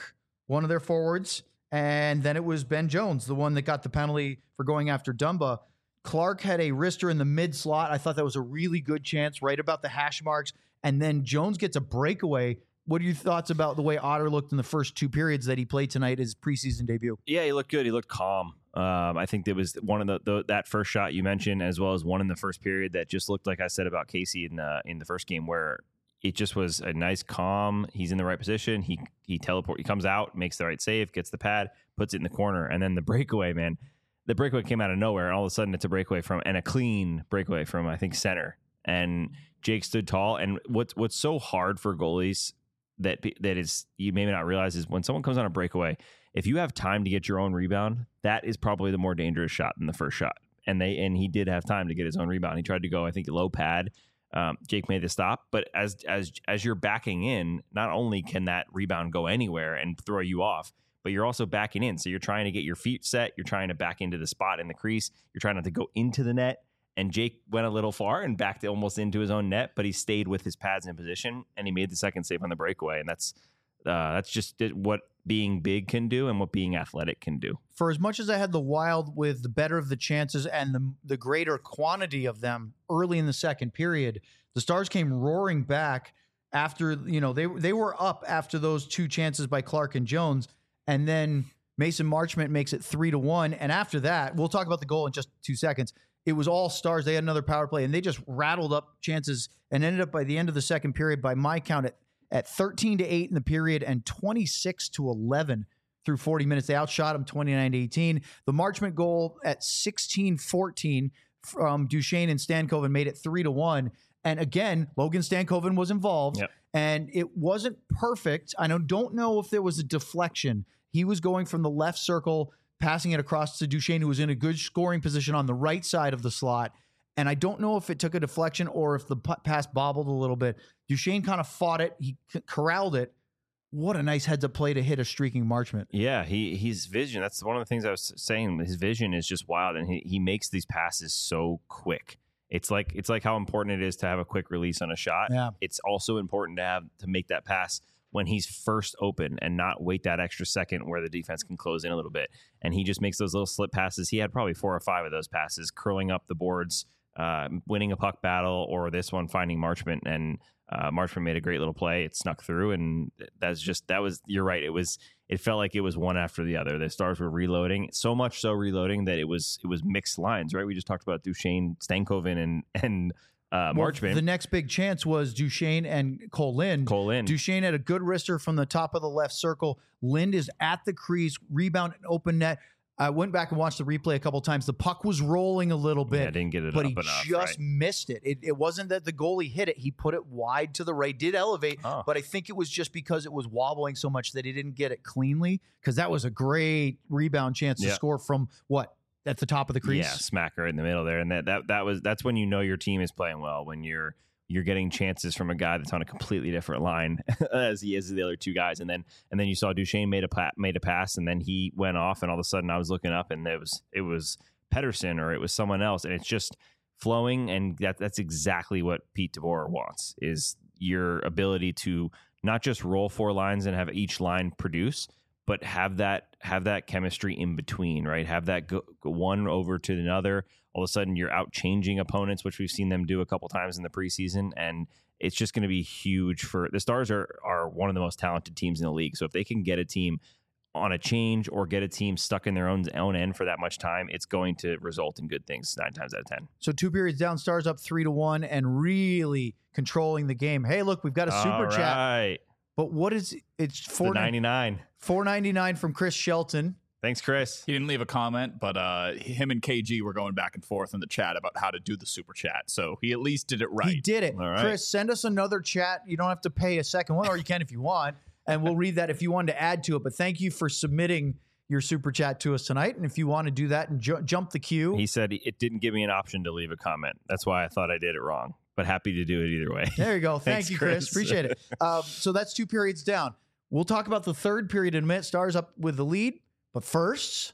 one of their forwards, and then it was Ben Jones, the one that got the penalty for going after Dumba. Clark had a wrister in the mid slot. I thought that was a really good chance right about the hash marks. And then Jones gets a breakaway. What are your thoughts about the way Otter looked in the first two periods that he played tonight, his preseason debut? Yeah, he looked good. He looked calm. Um, I think there was one of the, the that first shot you mentioned, as well as one in the first period that just looked like I said about Casey in the in the first game, where it just was a nice calm. He's in the right position. He he teleport. He comes out, makes the right save, gets the pad, puts it in the corner, and then the breakaway, man. The breakaway came out of nowhere, and all of a sudden it's a breakaway from and a clean breakaway from I think center. And Jake stood tall. And what's what's so hard for goalies that that is you maybe not realize is when someone comes on a breakaway, if you have time to get your own rebound, that is probably the more dangerous shot than the first shot. And they and he did have time to get his own rebound. He tried to go, I think, low pad. Um, Jake made the stop, but as as as you're backing in, not only can that rebound go anywhere and throw you off, but you're also backing in. So you're trying to get your feet set. You're trying to back into the spot in the crease. You're trying not to go into the net. And Jake went a little far and backed almost into his own net, but he stayed with his pads in position, and he made the second save on the breakaway. And that's uh, that's just what being big can do and what being athletic can do. For as much as I had the Wild with the better of the chances and the, the greater quantity of them early in the second period, the Stars came roaring back after, you know, they they were up after those two chances by Clark and Jones. And then Mason Marchment makes it three to one. And after that, we'll talk about the goal in just two seconds. It was all Stars. They had another power play, and they just rattled up chances and ended up by the end of the second period, by my count, at, at thirteen to eight in the period and twenty-six to eleven through forty minutes. They outshot them twenty-nine to eighteen. The Marchment goal at sixteen fourteen from Duchesne and Stankoven made it three to one. And again, Logan Stankoven was involved, Yep. and it wasn't perfect. I don't, don't know if there was a deflection. He was going from the left circle, passing it across to Duchesne, who was in a good scoring position on the right side of the slot. And I don't know if it took a deflection or if the p- pass bobbled a little bit. Duchesne kind of fought it. He c- corralled it. What a nice heads-up play to hit a streaking Marchment. Yeah, he his vision. That's one of the things I was saying. His vision is just wild, and he, he makes these passes so quick. It's like it's like how important it is to have a quick release on a shot. Yeah. It's also important to have to make that pass when he's first open and not wait that extra second where the defense can close in a little bit. And he just makes those little slip passes. He had probably four or five of those passes, curling up the boards, uh, winning a puck battle, or this one finding Marchment. And uh, Marchment made a great little play. It snuck through, and that's just that was. You're right. It was. It felt like it was one after the other. The Stars were reloading, so much so reloading that it was it was mixed lines. Right. We just talked about Duchesne, Stankoven, and and. Uh, Well, Marchment. the next big chance was Duchesne and Cole Lind. Cole Lind. Duchesne had a good wrister from the top of the left circle. Lind is at the crease, rebound, and open net. I went back and watched the replay a couple times. The puck was rolling a little bit. Yeah, didn't get it but up he enough, just right? missed it. it. It wasn't that the goalie hit it. He put it wide to the right, did elevate, Oh. but I think it was just because it was wobbling so much that he didn't get it cleanly, because that was a great rebound chance to Yeah. score from, what, at the top of the crease? Yeah, smack right in the middle there, and that that that was that's when you know your team is playing well, when you're you're getting chances from a guy that's on a completely different line as he is the other two guys, and then and then you saw Duchesne made a pa- made a pass, and then he went off, and all of a sudden I was looking up, and it was it was Pedersen or it was someone else, and it's just flowing, and that that's exactly what Pete DeBoer wants, is your ability to not just roll four lines and have each line produce, but have that have that chemistry in between, right? Have that go, go one over to another. All of a sudden, you're out changing opponents, which we've seen them do a couple times in the preseason, and it's just going to be huge for the Stars. Are are one of the most talented teams in the league. So if they can get a team on a change or get a team stuck in their own own end for that much time, it's going to result in good things nine times out of ten. So two periods down, Stars up three to one, and really controlling the game. Hey, look, we've got a super All chat. right. But what is it's The four ninety-nine. four ninety nine from Chris Shelton. Thanks, Chris. He didn't leave a comment, but uh, him and K G were going back and forth in the chat about how to do the super chat. So he at least did it right. He did it. All right. Chris, send us another chat. You don't have to pay a second one, or you can if you want, and we'll read that if you wanted to add to it. But thank you for submitting your super chat to us tonight. And if you want to do that and ju- jump the queue, He said it didn't give me an option to leave a comment. That's why I thought I did it wrong, but happy to do it either way. there you go. Thank Thanks, you, Chris. Chris. Appreciate it. Um, so that's two periods down. We'll talk about the third period in a minute. Stars up with the lead. But first,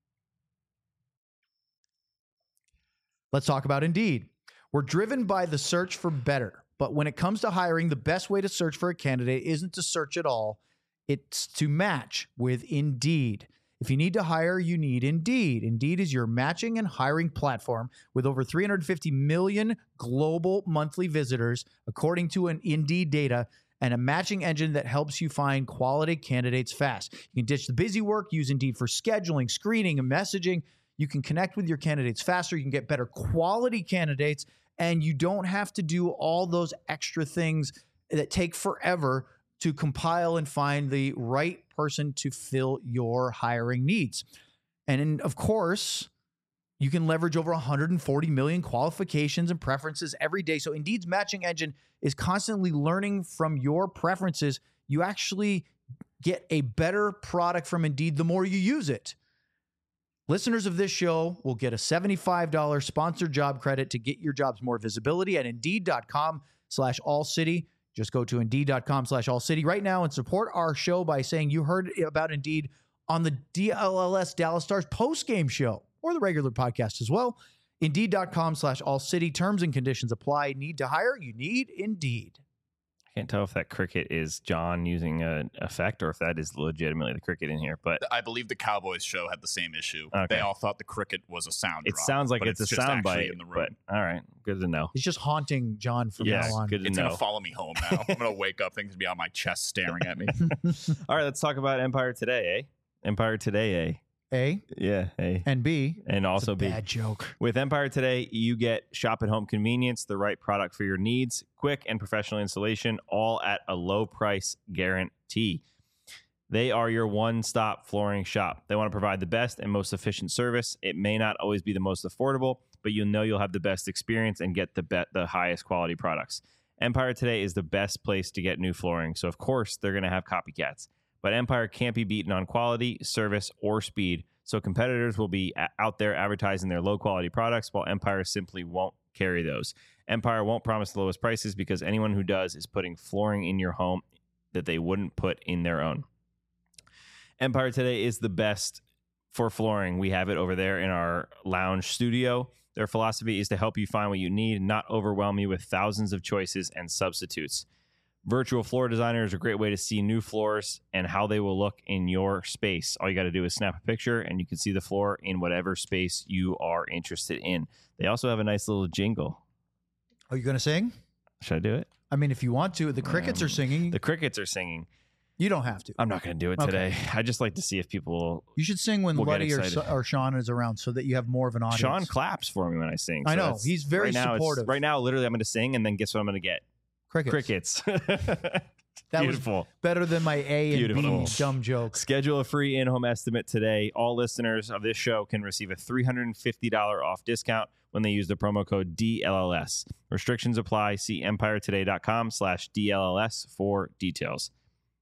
let's talk about Indeed. We're driven by the search for better. But when it comes to hiring, the best way to search for a candidate isn't to search at all. It's to match with Indeed. If you need to hire, you need Indeed. Indeed is your matching and hiring platform with over three hundred fifty million global monthly visitors, according to an Indeed data, and a matching engine that helps you find quality candidates fast. You can ditch the busy work, use Indeed for scheduling, screening, and messaging. You can connect with your candidates faster. You can get better quality candidates, and you don't have to do all those extra things that take forever to compile and find the right person to fill your hiring needs. And in, of course, you can leverage over one hundred forty million qualifications and preferences every day. So Indeed's matching engine is constantly learning from your preferences. You actually get a better product from Indeed the more you use it. Listeners of this show will get a seventy-five dollars sponsored job credit to get your jobs more visibility at Indeed.com slash All City. Just go to Indeed.com slash All City right now and support our show by saying you heard about Indeed on the D L L S Dallas Stars postgame show or the regular podcast as well. Indeed.com slash All City. Terms and conditions apply. Need to hire? You need Indeed. I can't tell if that cricket is John using an effect or if that is legitimately the cricket in here. But I believe the Cowboys show had the same issue. Okay. They all thought the cricket was a sound it drop, sounds like but it's, it's a just sound actually bite. in the room. But all right, good to know. He's just haunting John from Yes, now on. good to It's know. going to follow me home now. I'm going to wake up, things to be on my chest staring at me. All right, let's talk about Empire Today, eh? Empire Today, eh? A Yeah, eh? and B. And also It's a B. bad joke. With Empire Today, you get shop at home convenience, the right product for your needs, quick and professional installation, all at a low price guarantee. They are your one-stop flooring shop. They want to provide the best and most efficient service. It may not always be the most affordable, but you'll know you'll have the best experience and get the be- the highest quality products. Empire Today is the best place to get new flooring, so of course they're going to have copycats. But Empire can't be beaten on quality, service, or speed. So competitors will be a- out there advertising their low-quality products, while Empire simply won't carry those. Empire won't promise the lowest prices because anyone who does is putting flooring in your home that they wouldn't put in their own. Empire Today is the best for flooring. We have it over there in our lounge studio. Their philosophy is to help you find what you need, not overwhelm you with thousands of choices and substitutes. Virtual floor designer is a great way to see new floors and how they will look in your space. All you got to do is snap a picture and you can see the floor in whatever space you are interested in. They also have a nice little jingle. Are you going to sing? Should I do it? I mean, if you want to. The crickets Um, are singing. The crickets are singing. You don't have to. I'm not going to do it Okay. today. I just like to see if people... You should sing when We'll get Letty or, excited. or Sean is around so that you have more of an audience. Sean claps for me when I sing. I so know. that's- He's very right now it's- supportive. Right now, literally, I'm going to sing, and then guess what I'm going to get? Crickets. Crickets. That Beautiful. was better than my A and Beautiful. B dumb joke. Schedule a free in-home estimate today. All listeners of this show can receive a three hundred fifty dollars off discount when they use the promo code D L L S. Restrictions apply. See empiretoday.com slash DLLS for details.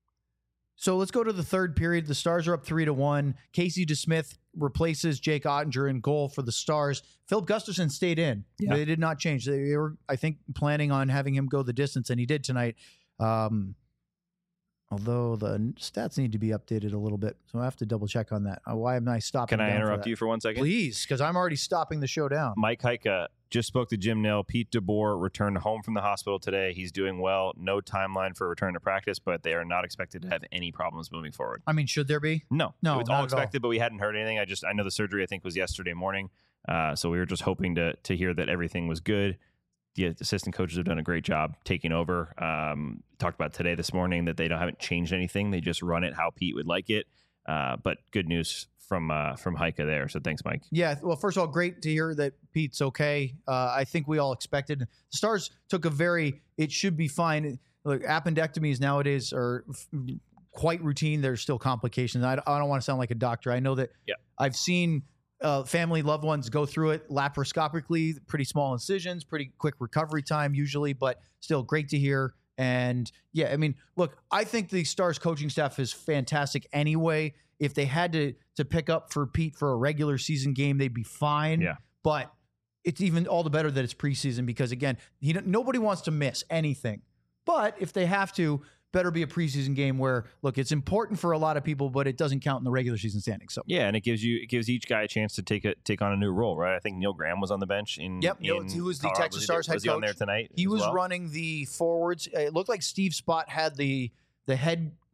So let's go to the third period. The Stars are up three to one. Casey DeSmith replaces Jake Ottinger in goal for the Stars. Philip Gustafson stayed in. Yeah. They did not change. They were, I think, planning on having him go the distance, and he did tonight. Um, although the stats need to be updated a little bit, so I have to double check on that. Uh, why am I stopping? Can I down for interrupt that? you for one second? Please, because I'm already stopping the show down. Mike Heika just spoke to Jim Nill. Pete DeBoer returned home from the hospital today. He's doing well. No timeline for return to practice, but they are not expected to have any problems moving forward. I mean, should there be? No, No, it was not all at all. expected, but we hadn't heard anything. I just I know the surgery I think was yesterday morning, uh, so we were just hoping to to hear that everything was good. The assistant coaches have done a great job taking over. Um, talked about today this morning that they don't haven't changed anything. They just run it how Pete would like it. Uh, but good news from uh, from Heika there. So thanks, Mike. Yeah, well, first of all, great to hear that Pete's okay. Uh, I think we all expected. The Stars took a very, it should be fine. Look, appendectomies nowadays are f- quite routine. There's still complications. I, I don't want to sound like a doctor. I know that Yeah. I've seen uh, family, loved ones go through it laparoscopically, pretty small incisions, pretty quick recovery time usually, but still great to hear. And yeah, I mean, look, I think the Stars coaching staff is fantastic anyway. If they had to to pick up for Pete for a regular season game, they'd be fine. Yeah. But it's even all the better that it's preseason because again, he don't- nobody wants to miss anything. But if they have to, better be a preseason game where look, it's important for a lot of people, but it doesn't count in the regular season standings. So Yeah, and it gives you it gives each guy a chance to take a take on a new role, right? I think Neil Graham was on the bench in. Yep, Neil- in he was the Colorado. Texas Was he- Stars head Was he on there coach. tonight? he as was well? running the forwards. It looked like Steve Spott had the the head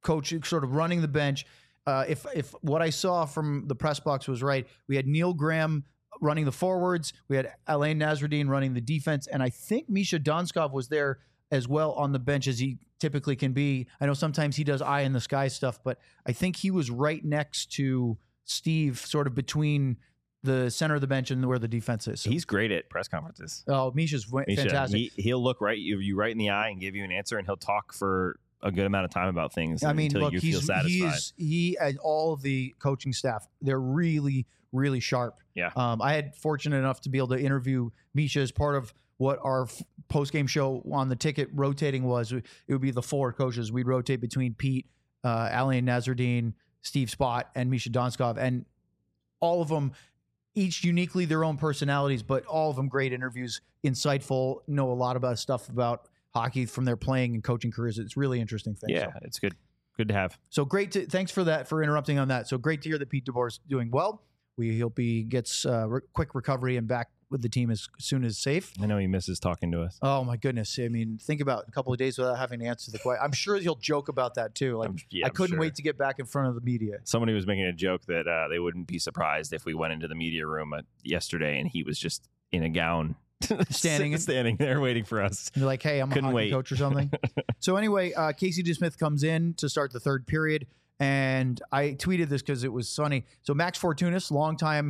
coach sort of running the bench. Uh, if if what I saw from the press box was right, we had Neil Graham running the forwards. We had Alain Nasruddin running the defense. And I think Misha Donskov was there as well on the bench as he typically can be. I know sometimes he does eye in the sky stuff, but I think he was right next to Steve, sort of between the center of the bench and where the defense is. So, He's great at press conferences. oh, Misha's w- Misha, fantastic. He, he'll look right you, you right in the eye and give you an answer, and he'll talk for a good amount of time about things I mean, until look, you he's, feel satisfied. he is, he and all of the coaching staff, they're really, really sharp. Yeah. Um, I had fortunate enough to be able to interview Misha as part of what our f- post-game show on the ticket rotating was. It would be the four coaches. We'd rotate between Pete, uh, Alain Nasruddin, Steve Spott, and Misha Donskov. And all of them, each uniquely their own personalities, but all of them great interviews, insightful, know a lot about stuff about hockey from their playing and coaching careers. It's really interesting thing. Yeah, So, it's good. Good to have. so great to thanks for that for interrupting on that. So great to hear that Pete DeBoer is doing well. We hope he gets uh, re- quick recovery and back with the team as soon as safe. I know he misses talking to us. Oh my goodness! I mean, think about a couple of days without having to answer the question. I'm sure he'll joke about that too. Like I'm- yeah, I I'm couldn't sure. wait to get back in front of the media. Somebody was making a joke that uh, they wouldn't be surprised if we went into the media room uh, yesterday and he was just in a gown, Standing in- standing there waiting for us. And they're like, "Hey, I'm Couldn't a hockey wait. coach or something." So anyway, uh, Casey DeSmith comes in to start the third period, and I tweeted this because it was funny. So Max Fortunas, longtime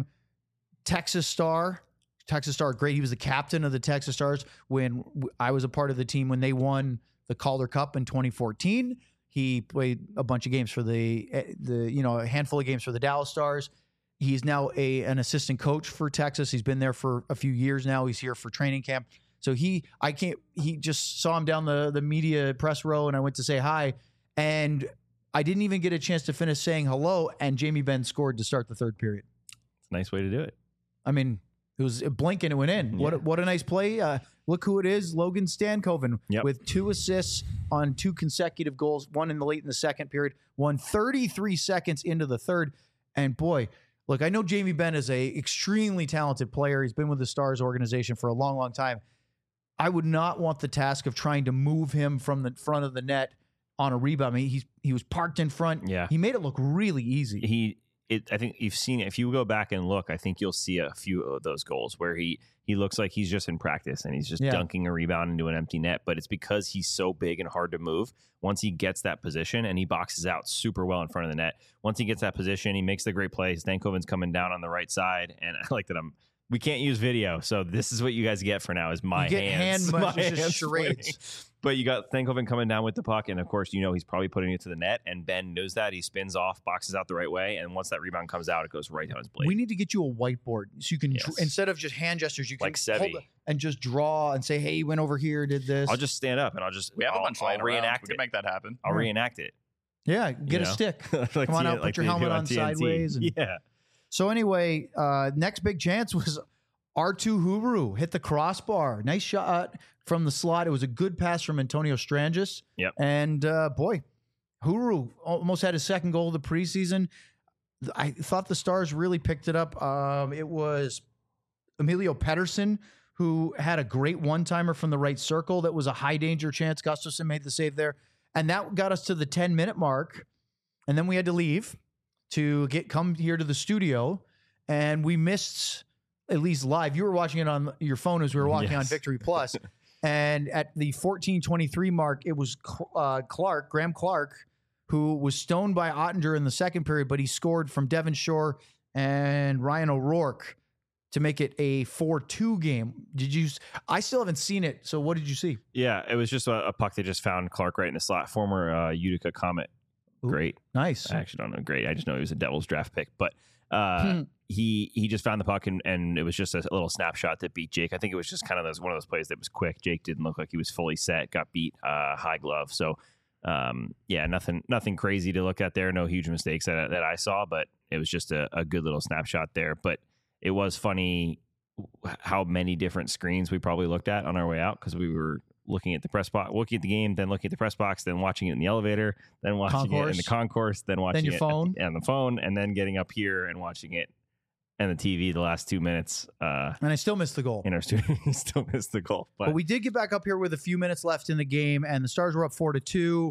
Texas Star, Texas Star, great. He was the captain of the Texas Stars when w- I was a part of the team when they won the Calder Cup in twenty fourteen. He played a bunch of games for the eh, the you know a handful of games for the Dallas Stars. He's now a an assistant coach for Texas. He's been there for a few years now. He's here for training camp. So he, I can't. He just saw him down the the media press row, and I went to say hi, and I didn't even get a chance to finish saying hello. And Jamie Benn scored to start the third period. It's a nice way to do it. I mean, it was a blink and it went in. What a, Yeah. what a nice play. Uh, look who it is, Logan Stankoven, Yep. with two assists on two consecutive goals, one in the late in the second period, one thirty-three seconds into the third. And boy, look, I know Jamie Benn is a extremely talented player. He's been with the Stars organization for a long, long time. I would not want the task of trying to move him from the front of the net on a rebound. I mean, he's, he was parked in front. Yeah. He made it look really easy. He, it, I think you've seen it. If you go back and look, I think you'll see a few of those goals where he he looks like he's just in practice and he's just Yeah. dunking a rebound into an empty net. But it's because he's so big and hard to move. Once he gets that position and he boxes out super well in front of the net, once he gets that position, he makes the great play. Stankoven's coming down on the right side, and I like that I'm. We can't use video, so this is what you guys get for now is my You get hands. hand my motions, just hands charades. pointing. But you got Stankoven coming down with the puck, and of course, you know he's probably putting it to the net, and Ben knows that. He spins off, boxes out the right way, and once that rebound comes out, it goes right down his blade. We need to get you a whiteboard so you can, dr- Yes. instead of just hand gestures, you can Like hold Sevi. it and just draw and say, "Hey, he went over here, did this." I'll just stand up and I'll just We have I'll, a bunch I'll lying around. reenact We can it. make that happen. I'll Yeah. reenact it. yeah, get you a know? stick. Like Come on T- out, put like your they do helmet on T N T. sideways and- Yeah. So anyway, uh, next big chance was R two Hubru hit the crossbar. Nice shot from the slot. It was a good pass from Antonio Strangis. Yep. And uh, boy, Hubru almost had his second goal of the preseason. I thought the Stars really picked it up. Um, it was Emilio Pettersson who had a great one-timer from the right circle. That was a high danger chance. Gustafsson made the save there. And that got us to the ten-minute mark. And then we had to leave to get come here to the studio. And we missed, at least live, you were watching it on your phone as we were watching on Yes. Victory Plus. And at the fourteen twenty-three mark, it was uh, Clark, Graham Clark, who was stoned by Ottinger in the second period, but he scored from Devon Shore and Ryan O'Rourke to make it a four two game. Did you? I still haven't seen it. So what did you see? Yeah, it was just a, a puck that just found Clark right in the slot. Former uh, Utica Comet. Ooh. Great. Nice. I actually don't know. Great. I just know he was a Devils draft pick. But uh, Hmm. he he just found the puck, and, and it was just a little snapshot that beat Jake. I think it was just kind of those, one of those plays that was quick. Jake didn't look like he was fully set, got beat uh, high glove. So, um, yeah, nothing nothing crazy to look at there. No huge mistakes that, that I saw, but it was just a, a good little snapshot there. But it was funny how many different screens we probably looked at on our way out because we were looking at the press box, looking at the game, then looking at the press box, then watching it in the elevator, then watching it in Concourse. the concourse, then watching your it phone. on the phone, and then getting up here and watching it and the T V the last two minutes uh, And I still missed the goal. in our studio. Still missed the goal, but, But we did get back up here with a few minutes left in the game, and the Stars were up four to two.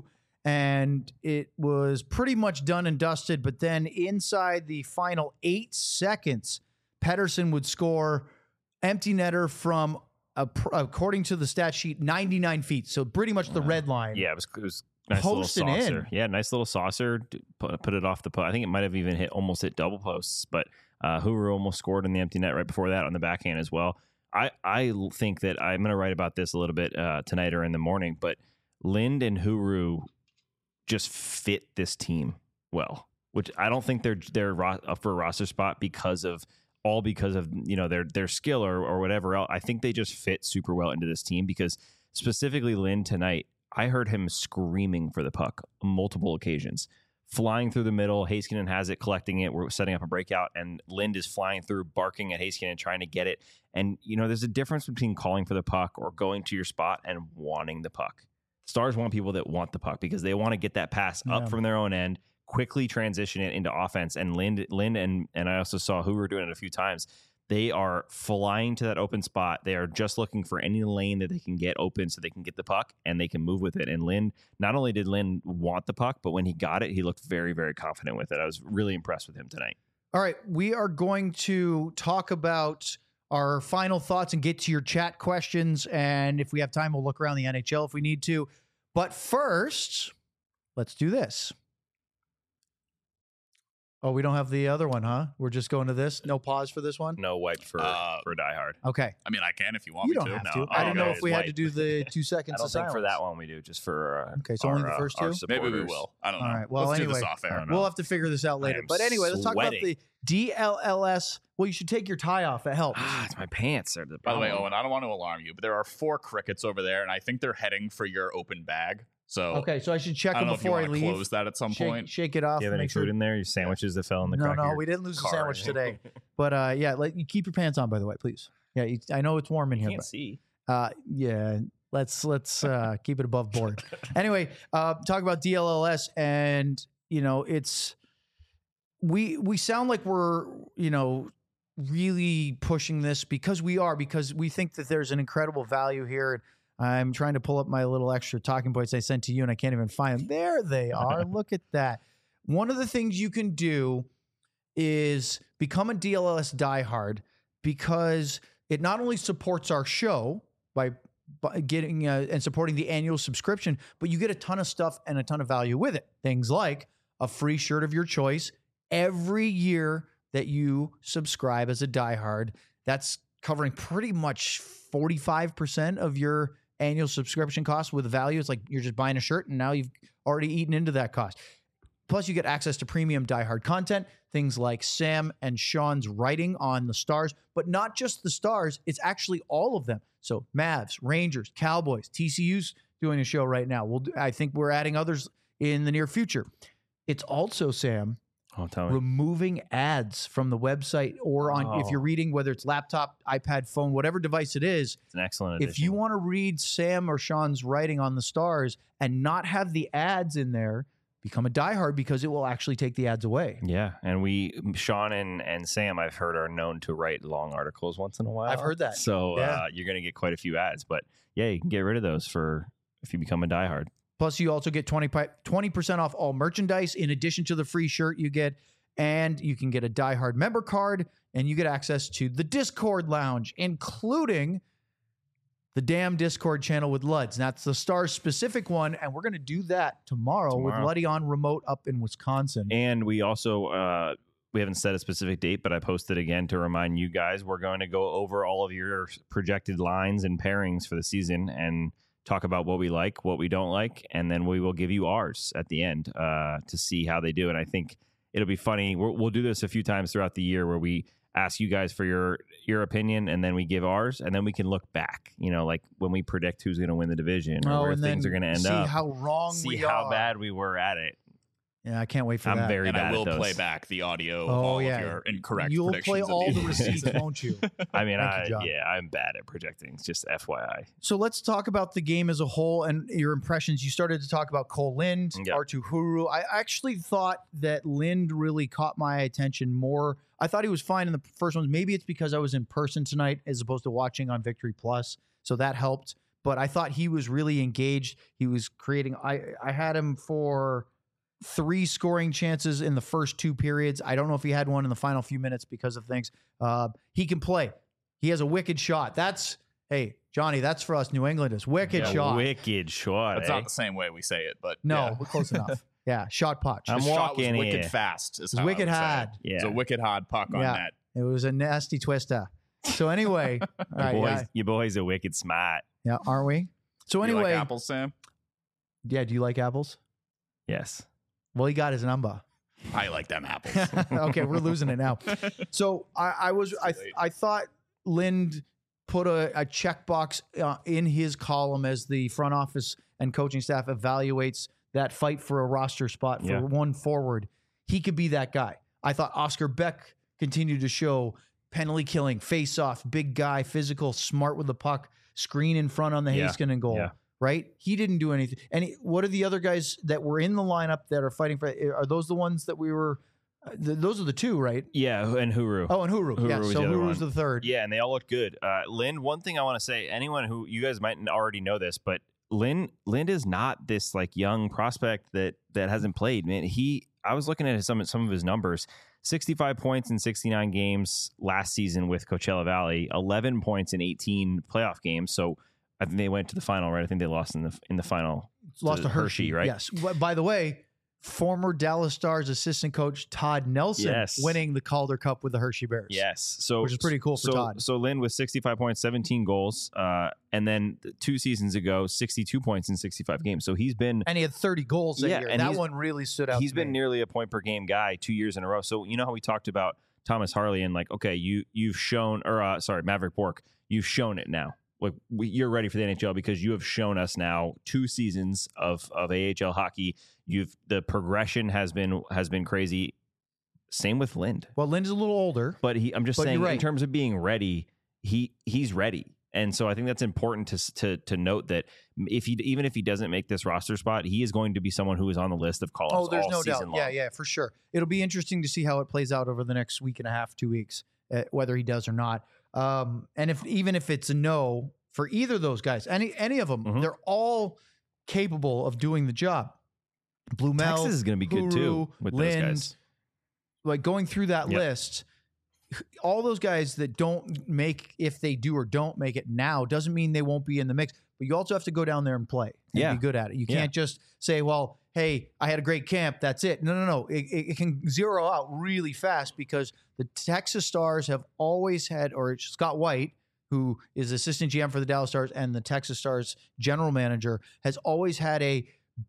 and it was pretty much done and dusted. But then inside the final eight seconds, Pettersson would score empty netter from, a, according to the stat sheet, ninety-nine feet. So pretty much the red line. Yeah, it was, it was nice Posting little saucer. in. Yeah, nice little saucer. Put, put it off the post. I think it might have even hit almost hit double posts, but uh, Huru almost scored in the empty net right before that on the backhand as well. I, I think that I'm going to write about this a little bit uh, tonight or in the morning, but Lind and Huru just fit this team well, which I don't think they're they're ro- up for a roster spot because of all because of you know their their skill or or whatever else. I think they just fit super well into this team because specifically Lind tonight, I heard him screaming for the puck on multiple occasions. Flying through the middle, Heiskanen has it, collecting it. We're setting up a breakout, and Lind is flying through, barking at Heiskanen, trying to get it. And, you know, there's a difference between calling for the puck or going to your spot and wanting the puck. Stars want people that want the puck because they want to get that pass Yeah. up from their own end, quickly transition it into offense. And Lind, Lind and, and I also saw Hoover doing it a few times. They are flying to that open spot. They are just looking for any lane that they can get open so they can get the puck and they can move with it. And Lind, not only did Lind want the puck, but when he got it, he looked very, very confident with it. I was really impressed with him tonight. All right, we are going to talk about our final thoughts and get to your chat questions. And if we have time, we'll look around the N H L if we need to. But first, let's do this. Oh, we don't have the other one, huh? We're just going to this? No pause for this one? No wipe for, Uh, for Die Hard. Okay. I mean, I can if you want You me don't to. have No. to. Oh, I didn't know okay. if we had to White. do the two I seconds don't of think silence. for that one we do, just for uh, Okay, so our, only the uh, first our two? Maybe we supporters. will. I don't know. All right, well, Let's do anyway, this off I air. don't know. We'll have to figure this out later. am But anyway, let's talk about sweating. the D L L S. Well, you should take your tie off. That helps. Ah, it's my pants. Are the By the way, problem. Owen, I don't want to alarm you, but there are four crickets over there, and I think they're heading for your open bag. So Okay, so I should check I them don't know if you before I want to leave. close that at some Shake, point. shake it off. Do you have any make sure- food in there? Your sandwiches that fell in the No, crack of no, your we didn't lose the car. sandwich today. But uh, yeah, let you keep your pants on, by the way, please. Yeah, you, I know it's warm in You here, can't see. but uh, yeah, let's let's uh, keep it above board. Anyway, uh, talk about D L L S, and you know, it's we we sound like we're you know really pushing this because we are because we think that there's an incredible value here. I'm trying to pull up my little extra talking points I sent to you, and I can't even find them. There they are. Look at that. One of the things you can do is become a D L L S diehard because it not only supports our show by, by getting uh, and supporting the annual subscription, but you get a ton of stuff and a ton of value with it. Things like a free shirt of your choice every year that you subscribe as a diehard. That's covering pretty much forty-five percent of your annual subscription cost with value. It's like you're just buying a shirt and now you've already eaten into that cost. Plus, you get access to premium diehard content, things like Sam and Sean's writing on the Stars, but not just the Stars. It's actually all of them. So Mavs, Rangers, Cowboys, T C U's doing a show right now. We'll do, I think we're adding others in the near future. It's also, Sam, Oh, tell me. removing ads from the website or on if Oh. you're reading, whether it's laptop, iPad, phone, whatever device it is. It's an excellent addition. If you want to read Sam or Sean's writing on the Stars and not have the ads in there, become a diehard because it will actually take the ads away. Yeah, and we, Sean and, and Sam, I've heard are known to write long articles once in a while. I've heard that. So Yeah. uh, you're going to get quite a few ads, but yeah, you can get rid of those for if you become a diehard. Plus, you also get twenty percent off all merchandise in addition to the free shirt you get. And you can get a diehard member card and you get access to the Discord lounge, including the damn Discord channel with Luds. That's the Stars specific one. And we're going to do that tomorrow, Tomorrow. with Luddy on remote up in Wisconsin. And we also, uh, we haven't set a specific date, but I posted again to remind you guys, we're going to go over all of your projected lines and pairings for the season and talk about what we like, what we don't like, and then we will give you ours at the end uh, to see how they do. And I think it'll be funny. We're, we'll do this a few times throughout the year where we ask you guys for your your opinion, and then we give ours, and then we can look back. You know, like when we predict who's going to win the division or Oh, where and things then are going to end see up. how wrong see we how are. bad we were at it. Yeah, I can't wait for I'm that. very and bad I will at those. play back the audio of Oh, all yeah. of your incorrect You'll predictions. play at all the the end. receipts, won't you? I mean, Thank I, you, John. yeah, I'm bad at projecting. Just F Y I. So let's talk about the game as a whole and your impressions. You started to talk about Cole Lind, Yeah. Artu Huru. I actually thought that Lind really caught my attention more. I thought he was fine in the first ones. Maybe it's because I was in person tonight as opposed to watching on Victory Plus, so that helped. but I thought he was really engaged. He was creating. I I had him for three scoring chances in the first two periods. I don't know if he had one in the final few minutes because of things. Uh, he can play. He has a wicked shot. That's hey Johnny. That's for us New Englanders. Wicked Yeah, shot. Wicked shot. That's eh? not the same way we say it, but No, yeah. we're close enough. Yeah, shot punch. I'm His shot was walking wicked here. fast. Is It was how I wicked would say it. hard. Yeah. It's a wicked hard puck on Yeah. net. It was a nasty twister. So anyway, all Your right, boys, yeah, your boys are wicked smart. yeah, aren't we? So You anyway, like apples, Sam? yeah. Do you like apples? Yes. Well, he got his number. I like them apples. Okay, we're losing it now. So I, I was I Too late. I thought Lind put a, a checkbox uh, in his column as the front office and coaching staff evaluates that fight for a roster spot for Yeah. one forward. He could be that guy. I thought Oscar Beck continued to show penalty killing, face off, big guy, physical, smart with the puck, screen in front on the Yeah. Heiskanen goal. Yeah. Right? He didn't do anything. And he, what are the other guys that were in the lineup that are fighting for? Are those the ones that we were? Uh, th- those are the two, right? Yeah, and Huru. Oh, and Huru. Huru yeah, was so the other Huru's one. the third. Yeah, and they all look good. Uh, Lynn, one thing I want to say, anyone who you guys might already know this, but Lynn, Lynn is not this like young prospect that that hasn't played. Man, he. I was looking at some some of his numbers: sixty-five points in sixty-nine games last season with Coachella Valley, eleven points in eighteen playoff games. So I think they went to the final, right? I think they lost in the in the final. Lost to Hershey, right? Yes. But by the way, former Dallas Stars assistant coach Todd Nelson Yes. winning the Calder Cup with the Hershey Bears. Yes, so Which is pretty cool for so, Todd. So Lynn with sixty-five points, seventeen goals, uh, and then two seasons ago, sixty-two points in sixty-five games. So he's been And he had thirty goals that Yeah, year. and That he's- one really stood out. he's to been me. nearly a point per game guy two years in a row. So you know how we talked about Thomas Harley and like, okay, you you've shown, or uh, sorry, Maverick Bork, you've shown it now. Like we, you're ready for the N H L because you have shown us now two seasons of of A H L hockey. You've the progression has been has been crazy. Same with Lind. Well, Lynn's a little older. But he, I'm just But saying, you're right. in terms of being ready, he he's ready, and so I think that's important to to to note that if he even if he doesn't make this roster spot, he is going to be someone who is on the list of call ups. Oh, there's all no doubt. season Yeah, long. yeah, for sure. It'll be interesting to see how it plays out over the next week and a half, two weeks, uh, whether he does or not. Um, and if even if it's a no for either of those guys, any any of them, Mhm. they're all capable of doing the job. Blumel, Texas is going to be good too Huru, with Lind, those guys. like going through that Yep. list, all those guys that don't make, if they do or don't make it now, doesn't mean they won't be in the mix. But you also have to go down there and play and Yeah. be good at it. You Yeah. can't just say, well, hey, I had a great camp. That's it. No, no, no. It, it, it can zero out really fast because the Texas Stars have always had, or Scott White, who is assistant G M for the Dallas Stars and the Texas Stars general manager, has always had a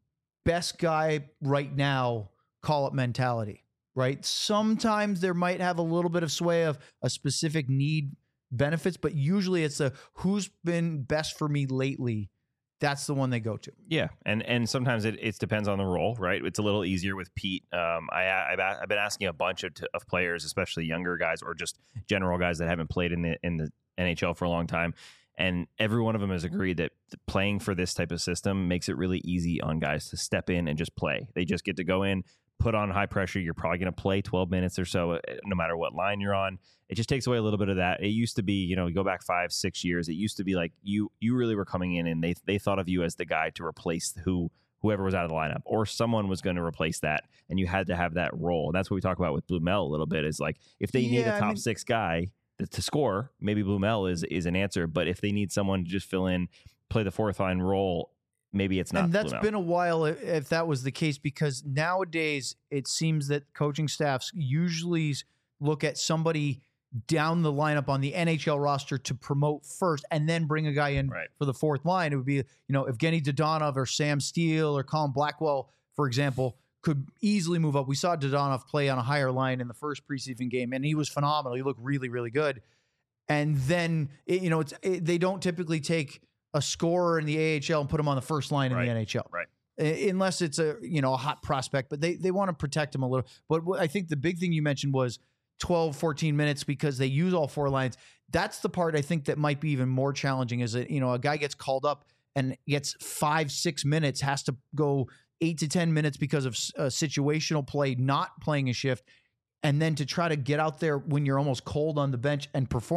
best guy right now call up mentality, right? Sometimes there might have a little bit of sway of a specific need benefits, but usually it's a who's been best for me lately. That's the one they go to. Yeah, and and sometimes it, it depends on the role, right? It's a little easier with Pete. Um, I I've, I've been asking a bunch of, of players, especially younger guys or just general guys that haven't played in the in the N H L for a long time, and every one of them has agreed that playing for this type of system makes it really easy on guys to step in and just play. They just get to go in, put on high pressure. You're probably going to play twelve minutes or so, uh, no matter what line you're on. It just takes away a little bit of that. It used to be, you know, go back five, six years. It used to be like you you really were coming in and they they thought of you as the guy to replace who whoever was out of the lineup, or someone was going to replace that, and you had to have that role. And that's what we talk about with Blumel a little bit. Is like if they need Yeah, a I top mean- six guy to, to score, maybe Blumel is is an answer. But if they need someone to just fill in, play the fourth line role, maybe it's not. And that's Blumel. been a while if, if that was the case, because nowadays it seems that coaching staffs usually look at somebody down the lineup on the N H L roster to promote first and then bring a guy in Right. for the fourth line. It would be, you know, Evgeny Dodonov or Sam Steele or Colin Blackwell, for example, could easily move up. We saw Dodonov play on a higher line in the first preseason game, and he was phenomenal. He looked really, really good. And then, it, you know, it's it, they don't typically take a scorer in the A H L and put him on the first line in Right. the N H L. Right. Uh, Unless it's a, you know, a hot prospect, but they, they want to protect him a little. But what I think the big thing you mentioned was twelve, fourteen minutes because they use all four lines. That's the part I think that might be even more challenging is that, you know, a guy gets called up and gets five, six minutes, has to go eight to ten minutes because of uh, situational play, not playing a shift. And then to try to get out there when you're almost cold on the bench and perform.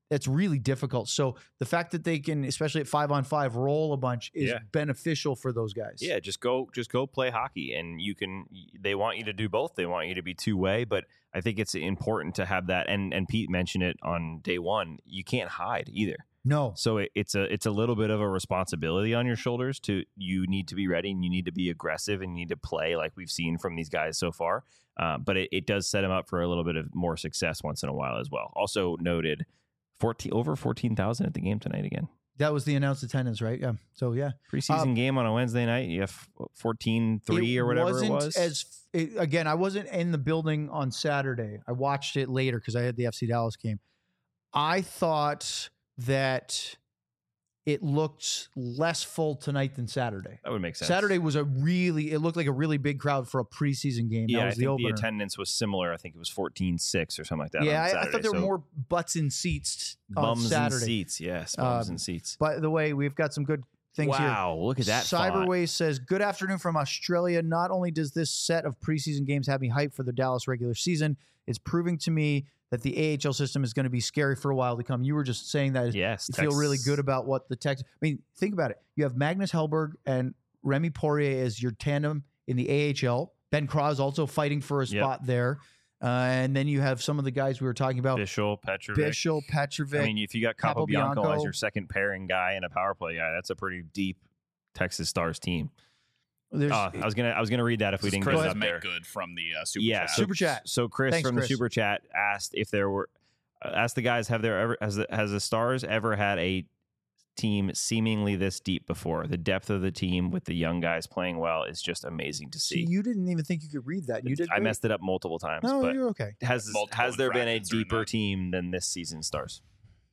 That's really difficult. So the fact that they can, especially at five on five, roll a bunch is Yeah. beneficial for those guys. Yeah, just go just go play hockey, and you can. They want you to do both. They want you to be two way, but I think it's important to have that. And and Pete mentioned it on day one. You can't hide either. No. So it, it's a it's a little bit of a responsibility on your shoulders. To you need to be ready, and you need to be aggressive, and you need to play like we've seen from these guys so far. Uh, but it, it does set them up for a little bit of more success once in a while as well. Also noted, fourteen over fourteen thousand at the game tonight again. That was the announced attendance, right? Yeah. So yeah, Preseason Um, game on a Wednesday night. You have fourteen three or whatever wasn't it was. As it, again, I wasn't in the building on Saturday. I watched it later because I had the F C Dallas game. I thought that it looked less full tonight than Saturday. That would make sense. Saturday was a really, it looked like a really big crowd for a preseason game. Yeah, that I was think the the, opener. attendance was similar. I think it was fourteen six or something like that. Yeah, on I, I Saturday. thought there were So more butts in seats on bums Saturday. and seats. Yes, bums Um, and seats. By the way, we've got some good things here. Wow, look at that. font. Cyberways says, good afternoon from Australia. Not only does this set of preseason games have me hyped for the Dallas regular season, it's proving to me that the A H L system is going to be scary for a while to come. You were just saying that Yes, you feel really Tex- good about what the Tex. I mean, think about it. You have Magnus Hellberg and Remy Poirier as your tandem in the A H L. Ben Kraz also fighting for a Yep. spot there. Uh, and then you have some of the guys we were talking about. Bishop, Petrovic. Bishop, Petrovic. I mean, if you got Capobianco Capobianco. as your second pairing guy and a power play guy, that's a pretty deep Texas Stars team. There's, Uh, I was gonna I was gonna read that if we This is didn't Chris get it up make there. good from the uh, super Yeah, chat. so, Super chat. So Chris Thanks, from Chris. the super chat asked if there were uh, asked the guys have there ever has the, has the Stars ever had a team seemingly this deep before? The depth of the team with the young guys playing well is just amazing to see, see. you didn't even think you could read that. You did. I great. messed it up multiple times, No, but you're okay. has Multiple has there been a infractions are in deeper that. team than this season Stars?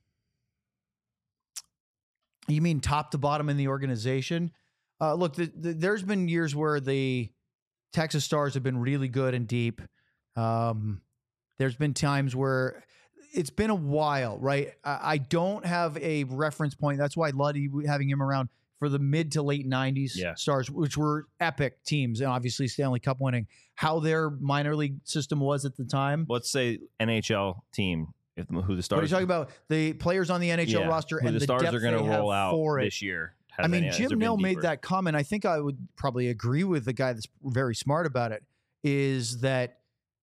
You mean top to bottom in the organization? Uh, look, the, the, there's been years where the Texas Stars have been really good and deep. Um, there's been times where it's been a while, right? I, I don't have a reference point. That's why Luddy having him around for the mid to late nineties Yeah. Stars, which were epic teams, and obviously Stanley Cup winning. How their minor league system was at the time. Let's say N H L team. If who the Stars? What are you talking about? The players on the N H L Yeah, roster who and the the Stars depth are going to they have roll out for it. this year. Has I mean, any- has there Jim been Nell made deeper? that comment. I think I would probably agree with the guy that's very smart about it, is that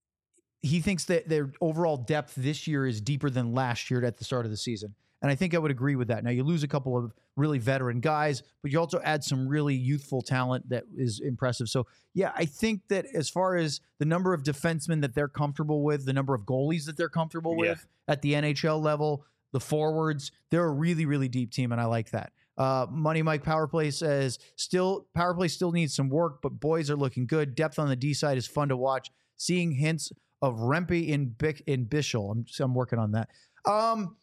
he thinks that their overall depth this year is deeper than last year at the start of the season. And I think I would agree with that. Now, you lose a couple of really veteran guys, but you also add some really youthful talent that is impressive. So, yeah, I think that as far as the number of defensemen that they're comfortable with, the number of goalies that they're comfortable Yeah. with at the N H L level, the forwards, they're a really, really deep team, and I like that. Uh, Money Mike Powerplay says, still Powerplay still needs some work, but boys are looking good. Depth on the D side is fun to watch. Seeing hints of Rempe in Bic in Bishel. I'm I'm working on that. Um,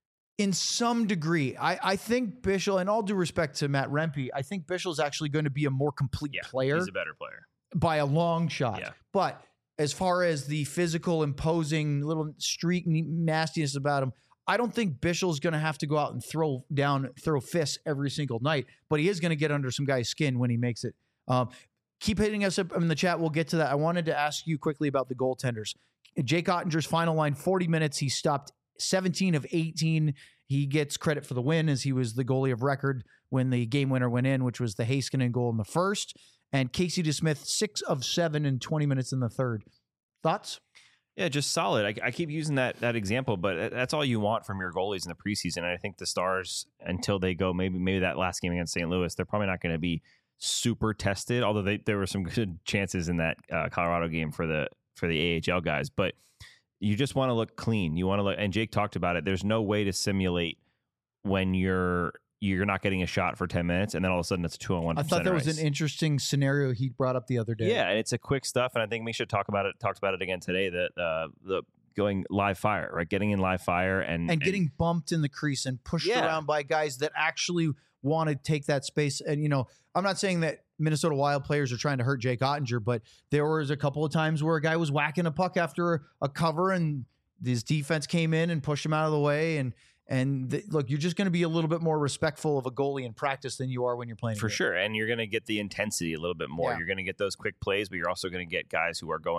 in some degree, I I think Bishel, and all due respect to Matt Rempe, I think Bishel is actually going to be a more complete Yeah, player he's a better player. by a long shot. Yeah. But as far as the physical, imposing little streak nastiness about him, I don't think Bishel's going to have to go out and throw down, throw fists every single night, but he is going to get under some guy's skin when he makes it. Um, keep hitting us up in the chat. We'll get to that. I wanted to ask you quickly about the goaltenders. Jake Ottinger's final line, forty minutes. He stopped seventeen of eighteen. He gets credit for the win as he was the goalie of record when the game winner went in, which was the Heiskanen goal in the first. And Casey DeSmith, six of seven in twenty minutes in the third. Thoughts? Yeah, just solid. I, I keep using that that example, but that's all you want from your goalies in the preseason. And I think the Stars, until they go maybe maybe that last game against Saint Louis, they're probably not going to be super tested. Although they, there were some good chances in that uh, Colorado game for the for the A H L guys, but you just want to look clean. You want to look, and Jake talked about it. There's no way to simulate when you're you're not getting a shot for ten minutes, and then all of a sudden it's a two on one. I thought that was an interesting scenario he brought up the other day. Yeah, and it's a quick stuff, and I think we should talk about it. Talked about it again today. That uh, the going live fire, right? Getting in live fire and and getting bumped in the crease and pushed Yeah. around by guys that actually want to take that space. And, you know, I'm not saying that Minnesota Wild players are trying to hurt Jake Ottinger, but there was a couple of times where a guy was whacking a puck after a cover and his defense came in and pushed him out of the way. And, and the, look, you're just going to be a little bit more respectful of a goalie in practice than you are when you're playing. a for game. sure, and you're going to get the intensity a little bit more. Yeah. You're going to get those quick plays, but you're also going to get guys who are going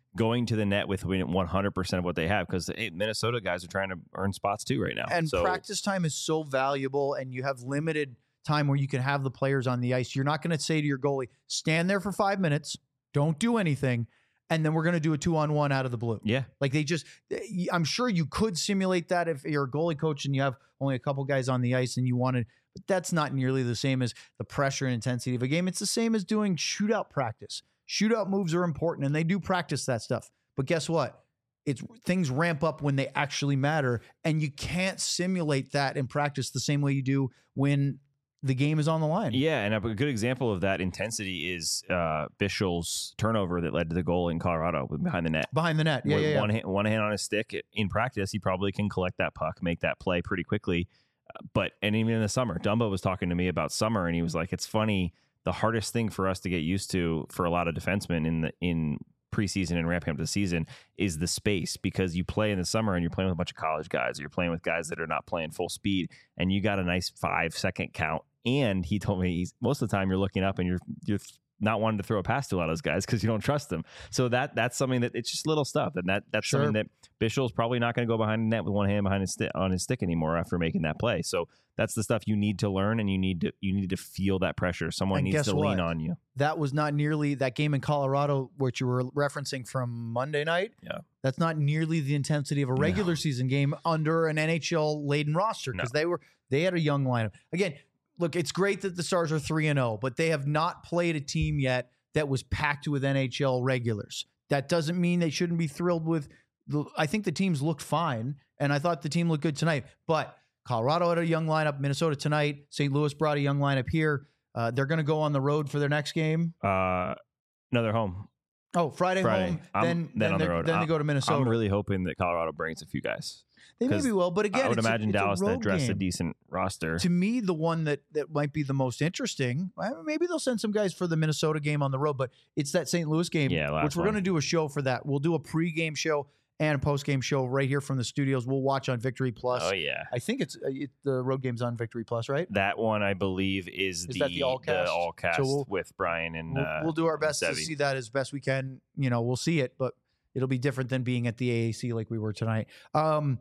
going to the net with one hundred percent of what they have, because hey, Minnesota guys are trying to earn spots too right now. And so, practice time is so valuable, and you have limited time where you can have the players on the ice. You're not going to say to your goalie, stand there for five minutes, don't do anything, and then we're going to do a two-on-one out of the blue. Yeah. Like they just, I'm sure you could simulate that if you're a goalie coach and you have only a couple guys on the ice and you wanted, but that's not nearly the same as the pressure and intensity of a game. It's the same as doing shootout practice. Shootout moves are important, and they do practice that stuff. But guess what? It's things ramp up when they actually matter, and you can't simulate that in practice the same way you do when the game is on the line. Yeah, and a good example of that intensity is uh, Bischel's turnover that led to the goal in Colorado behind the net. Behind the net, yeah, With yeah, yeah. One hand, one hand on his stick. In practice, he probably can collect that puck, make that play pretty quickly. Uh, but, and even in the summer, Dumba was talking to me about summer, and he was like, it's funny, the hardest thing for us to get used to for a lot of defensemen in the in preseason and ramping up the season is the space, because you play in the summer and you're playing with a bunch of college guys, or you're playing with guys that are not playing full speed, and you got a nice five second count. And he told me he's, most of the time you're looking up and you're you're not wanting to throw a pass to a lot of those guys because you don't trust them. So that that's something that it's just little stuff, and that that's Sure. something that Bischel's probably not going to go behind the net with one hand behind his sti- on his stick anymore after making that play. So that's the stuff you need to learn, and you need to you need to feel that pressure. Someone And needs guess to what? lean on you. That was not nearly that game in Colorado, which you were referencing from Monday night. Yeah. That's not nearly the intensity of a regular No. season game under an N H L laden roster, because they were they had a young lineup. Again, look, it's great that the Stars are three and oh, but they have not played a team yet that was packed with N H L regulars. That doesn't mean they shouldn't be thrilled with the, I think the teams looked fine, and I thought the team looked good tonight. But Colorado had a young lineup, Minnesota tonight, Saint Louis brought a young lineup here. Uh, they're going to go on the road for their next game. Uh, no, they're home. Oh, Friday, Friday. home, I'm- then then then, on the they- road. then they I'm- go to Minnesota. I'm really hoping that Colorado brings a few guys. They 'cause maybe will, but again, I would it's a- imagine it's a Dallas to road address a game. decent roster. To me, the one that that might be the most interesting, well, maybe they'll send some guys for the Minnesota game on the road, but it's that Saint Louis game, Yeah, last which we're one. going to do a show for that. We'll do a pregame show and a postgame show right here from the studios. We'll watch on Victory Plus. Oh yeah. I think it's uh, it, the road game's on Victory Plus, right? That one, I believe, is, Is the, that the all cast? all cast So we'll- with Brian and We'll, uh, we'll do our and best to Sevy. see that as best we can. You know, we'll see it, but it'll be different than being at the A A C like we were tonight. Um,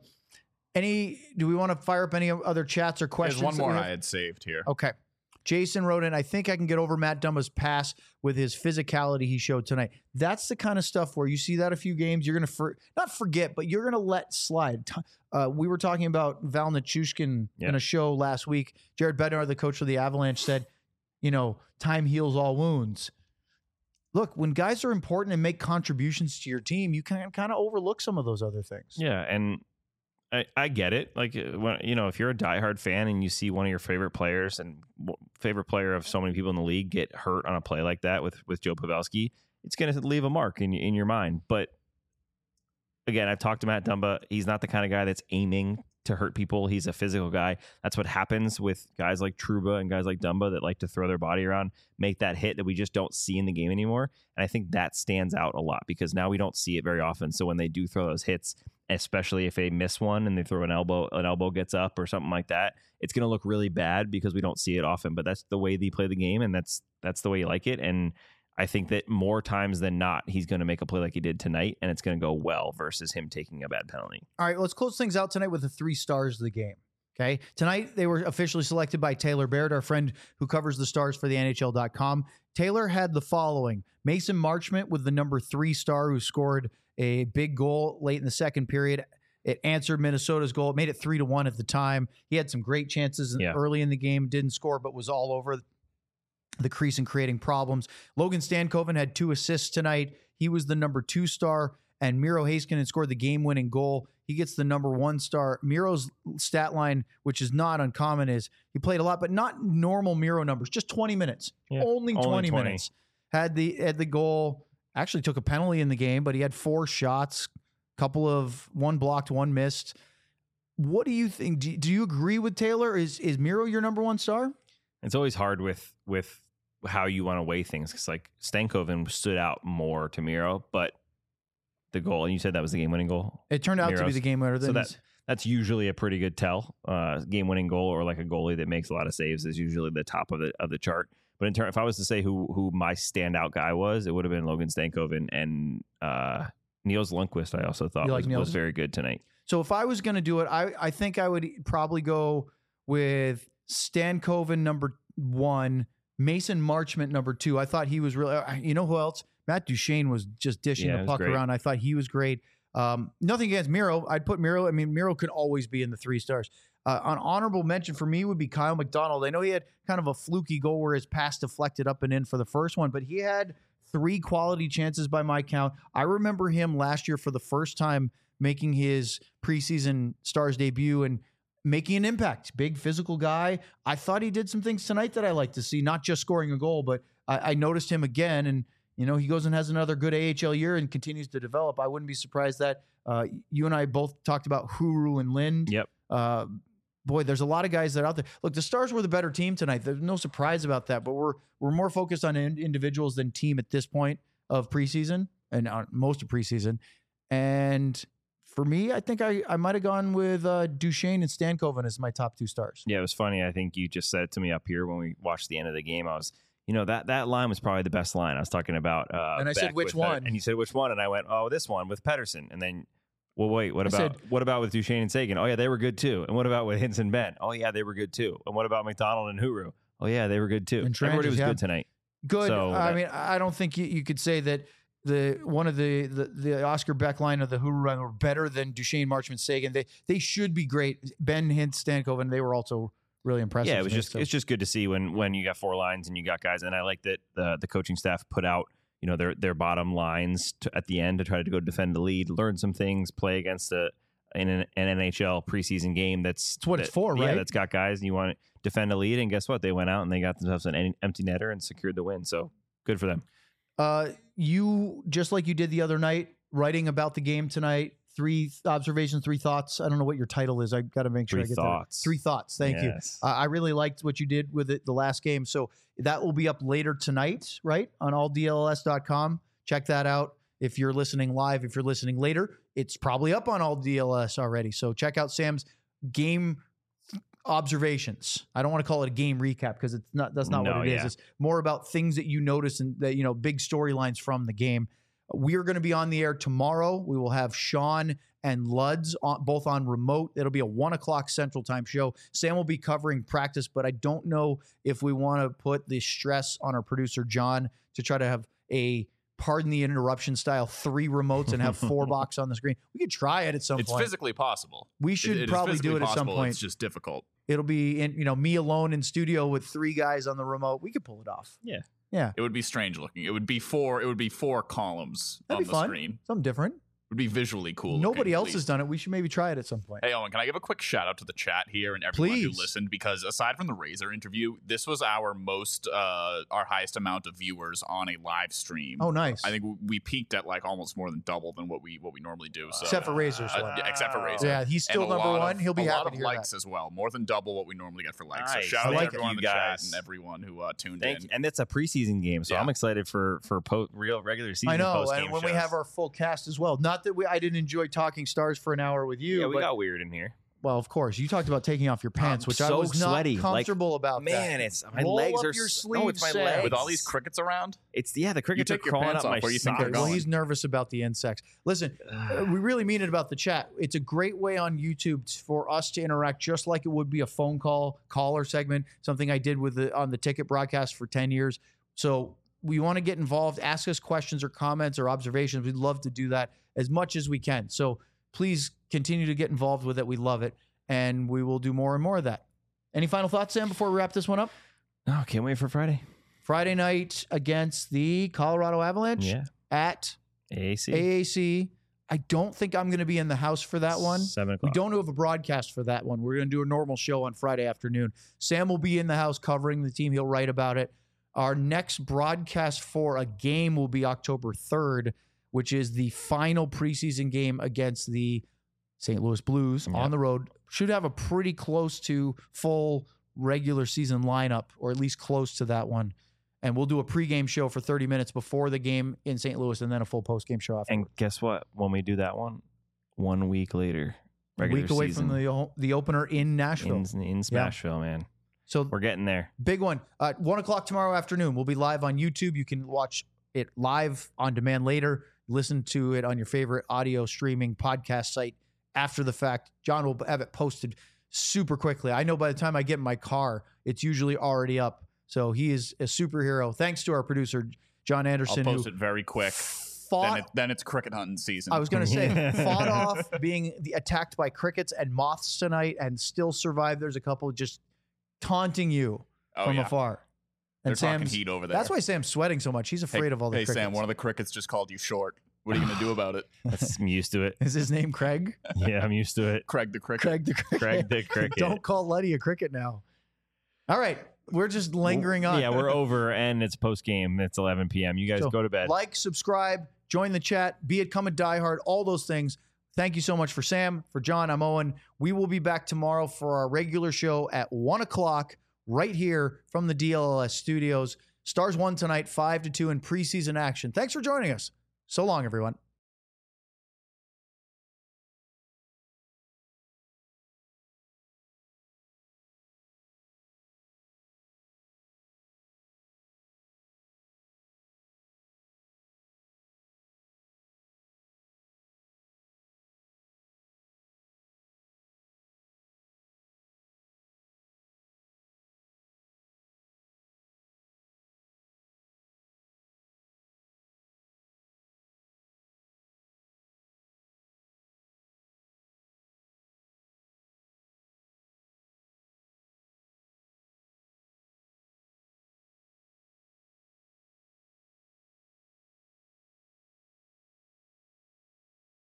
any? Do we want to fire up any other chats or questions? There's one that we more have? I had saved here. Okay. Jason wrote in, I think I can get over Matt Dumba's pass with his physicality he showed tonight. That's the kind of stuff where you see that a few games, you're going to, for, not forget, but you're going to let slide. T- Uh, we were talking about Val Nichushkin Yeah. in a show last week. Jared Bednar, the coach of the Avalanche, said, you know, time heals all wounds. Look, when guys are important and make contributions to your team, you can kind of overlook some of those other things. Yeah, and I, I get it. Like, uh, when, you know, if you're a diehard fan and you see one of your favorite players and w- favorite player of so many people in the league get hurt on a play like that with with Joe Pavelski, it's going to leave a mark in in your mind. But again, I've talked to Matt Dumba. He's not the kind of guy that's aiming to hurt people. He's a physical guy. That's what happens with guys like Trouba and guys like Dumba that like to throw their body around, make that hit that we just don't see in the game anymore. And I think that stands out a lot because now we don't see it very often. So when they do throw those hits, especially if they miss one and they throw an elbow, an elbow gets up or something like that, it's going to look really bad because we don't see it often. But that's the way they play the game, and that's that's the way you like it. And I think that more times than not, he's going to make a play like he did tonight, and it's going to go well versus him taking a bad penalty. All right, let's close things out tonight with the three stars of the game. Okay. Tonight, they were officially selected by Taylor Baird, our friend who covers the Stars for the N H L dot com. Taylor had the following: Mason Marchment with the number three star who scored a big goal late in the second period. It answered Minnesota's goal. It made it three to one at the time. He had some great chances Yeah. early in the game, didn't score, but was all over the crease and creating problems. Logan Stankoven had two assists tonight. He was the number two star, and Miro Heiskanen scored the game-winning goal. He gets the number one star. Miro's stat line, which is not uncommon, is he played a lot, but not normal Miro numbers, just twenty minutes. Yeah, only twenty, only twenty. minutes. Had the had the goal, actually took a penalty in the game, but he had four shots, couple of, one blocked, one missed. What do you think? Do, do you agree with Taylor? Is is Miro your number one star? It's always hard with with how you want to weigh things because like Stankoven stood out more to Miro, but the goal, and you said that was the game winning goal. It turned out to be Miro's. the game winner. So Then that that's usually a pretty good tell. Uh, game winning goal or like a goalie that makes a lot of saves is usually the top of the of the chart. But in turn, if I was to say who who my standout guy was, it would have been Logan Stankoven, and uh, Niels Lundqvist, I also thought You was, like Niels? was very good tonight. So if I was going to do it, I, I think I would probably go with Stankoven number one, Mason Marchment number two. I thought he was really, you know who else? Matt Duchene was just dishing Yeah, it the was puck great. around. I thought he was great. Um, nothing against Miro. I'd put Miro. I mean, Miro could always be in the three stars. Uh, an honorable mention for me would be Kyle McDonald. I know he had kind of a fluky goal where his pass deflected up and in for the first one, but he had three quality chances by my count. I remember him last year for the first time making his preseason Stars debut and making an impact. Big physical guy. I thought he did some things tonight that I like to see, not just scoring a goal, but I, I noticed him again. And, you know, he goes and has another good A H L year and continues to develop. I wouldn't be surprised that uh, you and I both talked about Huru and Lind. Yep. Uh, boy, there's a lot of guys that are out there. Look, the Stars were the better team tonight. There's no surprise about that, but we're we're more focused on in- individuals than team at this point of preseason and uh, most of preseason. And for me, I think I, I might have gone with uh, Duchene and Stankoven as my top two stars. Yeah, it was funny. I think you just said it to me up here when we watched the end of the game. I was, you know, that that line was probably the best line. I was talking about. Uh, And I said, Beck which with, uh, one? and you said which one, and I went, oh, this one with Pedersen. And then, well, wait, what I about said- what about with Duchene and Sagan? Oh yeah, they were good too. And what about with Hintz and Ben? Oh yeah, they were good too. And what about McDonald and Huru? Oh yeah, they were good too. And Everybody Tranches, was yeah. good tonight. Good. So I that- mean, I don't think you, you could say that the one of the the, the Oscar Beck line of the Huru run were better than Duchene, Marchment, Sagan. They they should be great. Ben, Hintz, Stankoven, they were also really impressive. Yeah, it was to me, just so. it's just good to see when when you got four lines and you got guys. And I like that the the coaching staff put out, you know, their their bottom lines to, at the end to try to go defend the lead, learn some things, play against a in an, an N H L preseason game. That's It's what that, it's for, Yeah, right? that's got guys and you want to defend a lead. And guess what? They went out and they got themselves an en- empty netter and secured the win. So good for them. Uh, you, just like you did the other night, writing about the game tonight, three observations, three thoughts. I don't know what your title is. I got to make sure Three I get thoughts. that. Three thoughts. Thank you. Yes. Uh, I really liked what you did with it the last game. So that will be up later tonight, right? On all D L S dot com. Check that out. If you're listening live, if you're listening later, it's probably up on all D L S already. So check out Sam's game observations. I don't want to call it a game recap because it's not, that's not No, what it is. yeah. It's more about things that you notice and that, you know, big storylines from the game. We are going to be on the air tomorrow. We will have Sean and Luds on, both on remote. It'll be a one o'clock Central Time show. Sam will be covering practice, but I don't know if we want to put the stress on our producer John to try to have a pardon the interruption style three remotes and have four box on the screen. We could try it at some It's point. physically possible. We It- should it is probably physically do it at some possible. point. It's just difficult. It'll be in, you know, me alone in studio with three guys on the remote. We could pull it off. Yeah. Yeah. It would be strange looking. It would be four. It would be four columns That'd on be the fun. screen. Something different. It would be visually cool. looking, Nobody at else has least. done it. We should maybe try it at some point. Hey Owen, can I give a quick shout out to the chat here and everyone Please. who listened? Because aside from the Razor interview, this was our most, uh, our highest amount of viewers on a live stream. Oh, nice. I think we- we peaked at like almost more than double than what we what we normally do. So Except for Razor's uh, one. yeah, except for Razor. Yeah, he's still And a number lot one. of- He'll be a happy lot to of hear likes that. as well, more than double what we normally get for likes. Nice. So shout I out like to it. everyone in the You chat guys. and everyone who uh, tuned Thank in. you. And it's a preseason game, so Yeah. I'm excited for for po- real regular season. I know, post-game and when we shows. have our full cast as well. Not that we, I didn't enjoy talking Stars for an hour with you. yeah, we but, got weird in here. well, of course, you talked about taking off your pants, I'm which I so was not sweaty. Like, comfortable about. Man, that. it's my Roll legs up are your s- sleeves, no, it's my Sam. legs. With all these crickets around, It's yeah, the crickets are take your crawling pants up off, my where do you think socks. they're Well, going? he's nervous about the insects. Listen, uh, we really mean it about the chat. It's a great way on YouTube t- for us to interact, just like it would be a phone call caller segment. Something I did with the on the ticket broadcast for ten years. So we want to get involved, ask us questions or comments or observations. We'd love to do that as much as we can. So please continue to get involved with it. We love it, and we will do more and more of that. Any final thoughts, Sam, before we wrap this one up? Oh, can't wait for Friday. Friday night against the Colorado Avalanche Yeah, at A A C. A A C. I don't think I'm going to be in the house for that one. Seven We o'clock. don't have a broadcast for that one. We're going to do a normal show on Friday afternoon. Sam will be in the house covering the team. He'll write about it. Our next broadcast for a game will be October third, which is the final preseason game against the Saint Louis Blues Yep. on the road. Should have a pretty close to full regular season lineup, or at least close to that one. And we'll do a pregame show for thirty minutes before the game in Saint Louis, and then a full postgame show after. And guess what? When we do that one, one week later, A regular week away season from the o- the opener in Nashville. in, in Smashville, man. So We're getting there. big one. Uh, one o'clock tomorrow afternoon. We'll be live on YouTube. You can watch it live on demand later. listen to it on your favorite audio streaming podcast site after the fact. John will have it posted super quickly. I know by the time I get in my car, it's usually already up. So he is a superhero. Thanks to our producer, John Anderson. I'll post who it very quick. Fought, then, it, then it's cricket hunting season. I was going to say, fought off being the, attacked by crickets and moths tonight and still survived. There's a couple just taunting you oh, from yeah. afar. And They're talking Sam's, heat over there. that's why Sam's sweating so much. He's afraid hey, of all the hey, crickets. Sam, one of the crickets just called you short. What are you going to do about it? I'm used to it. Is his name Craig? Yeah, I'm used to it. Craig the cricket. Craig the cricket. Craig the cricket. Don't call Letty a cricket now. All right. We're just lingering on. Yeah, we're over, and it's post game. It's eleven p.m. You guys So, go to bed. Like, subscribe, join the chat, be it come a diehard, all those things. Thank you so much for Sam. For John, I'm Owen. We will be back tomorrow for our regular show at one o'clock right here from the D L L S studios. Stars won tonight, five to two in preseason action. Thanks for joining us. So long, everyone.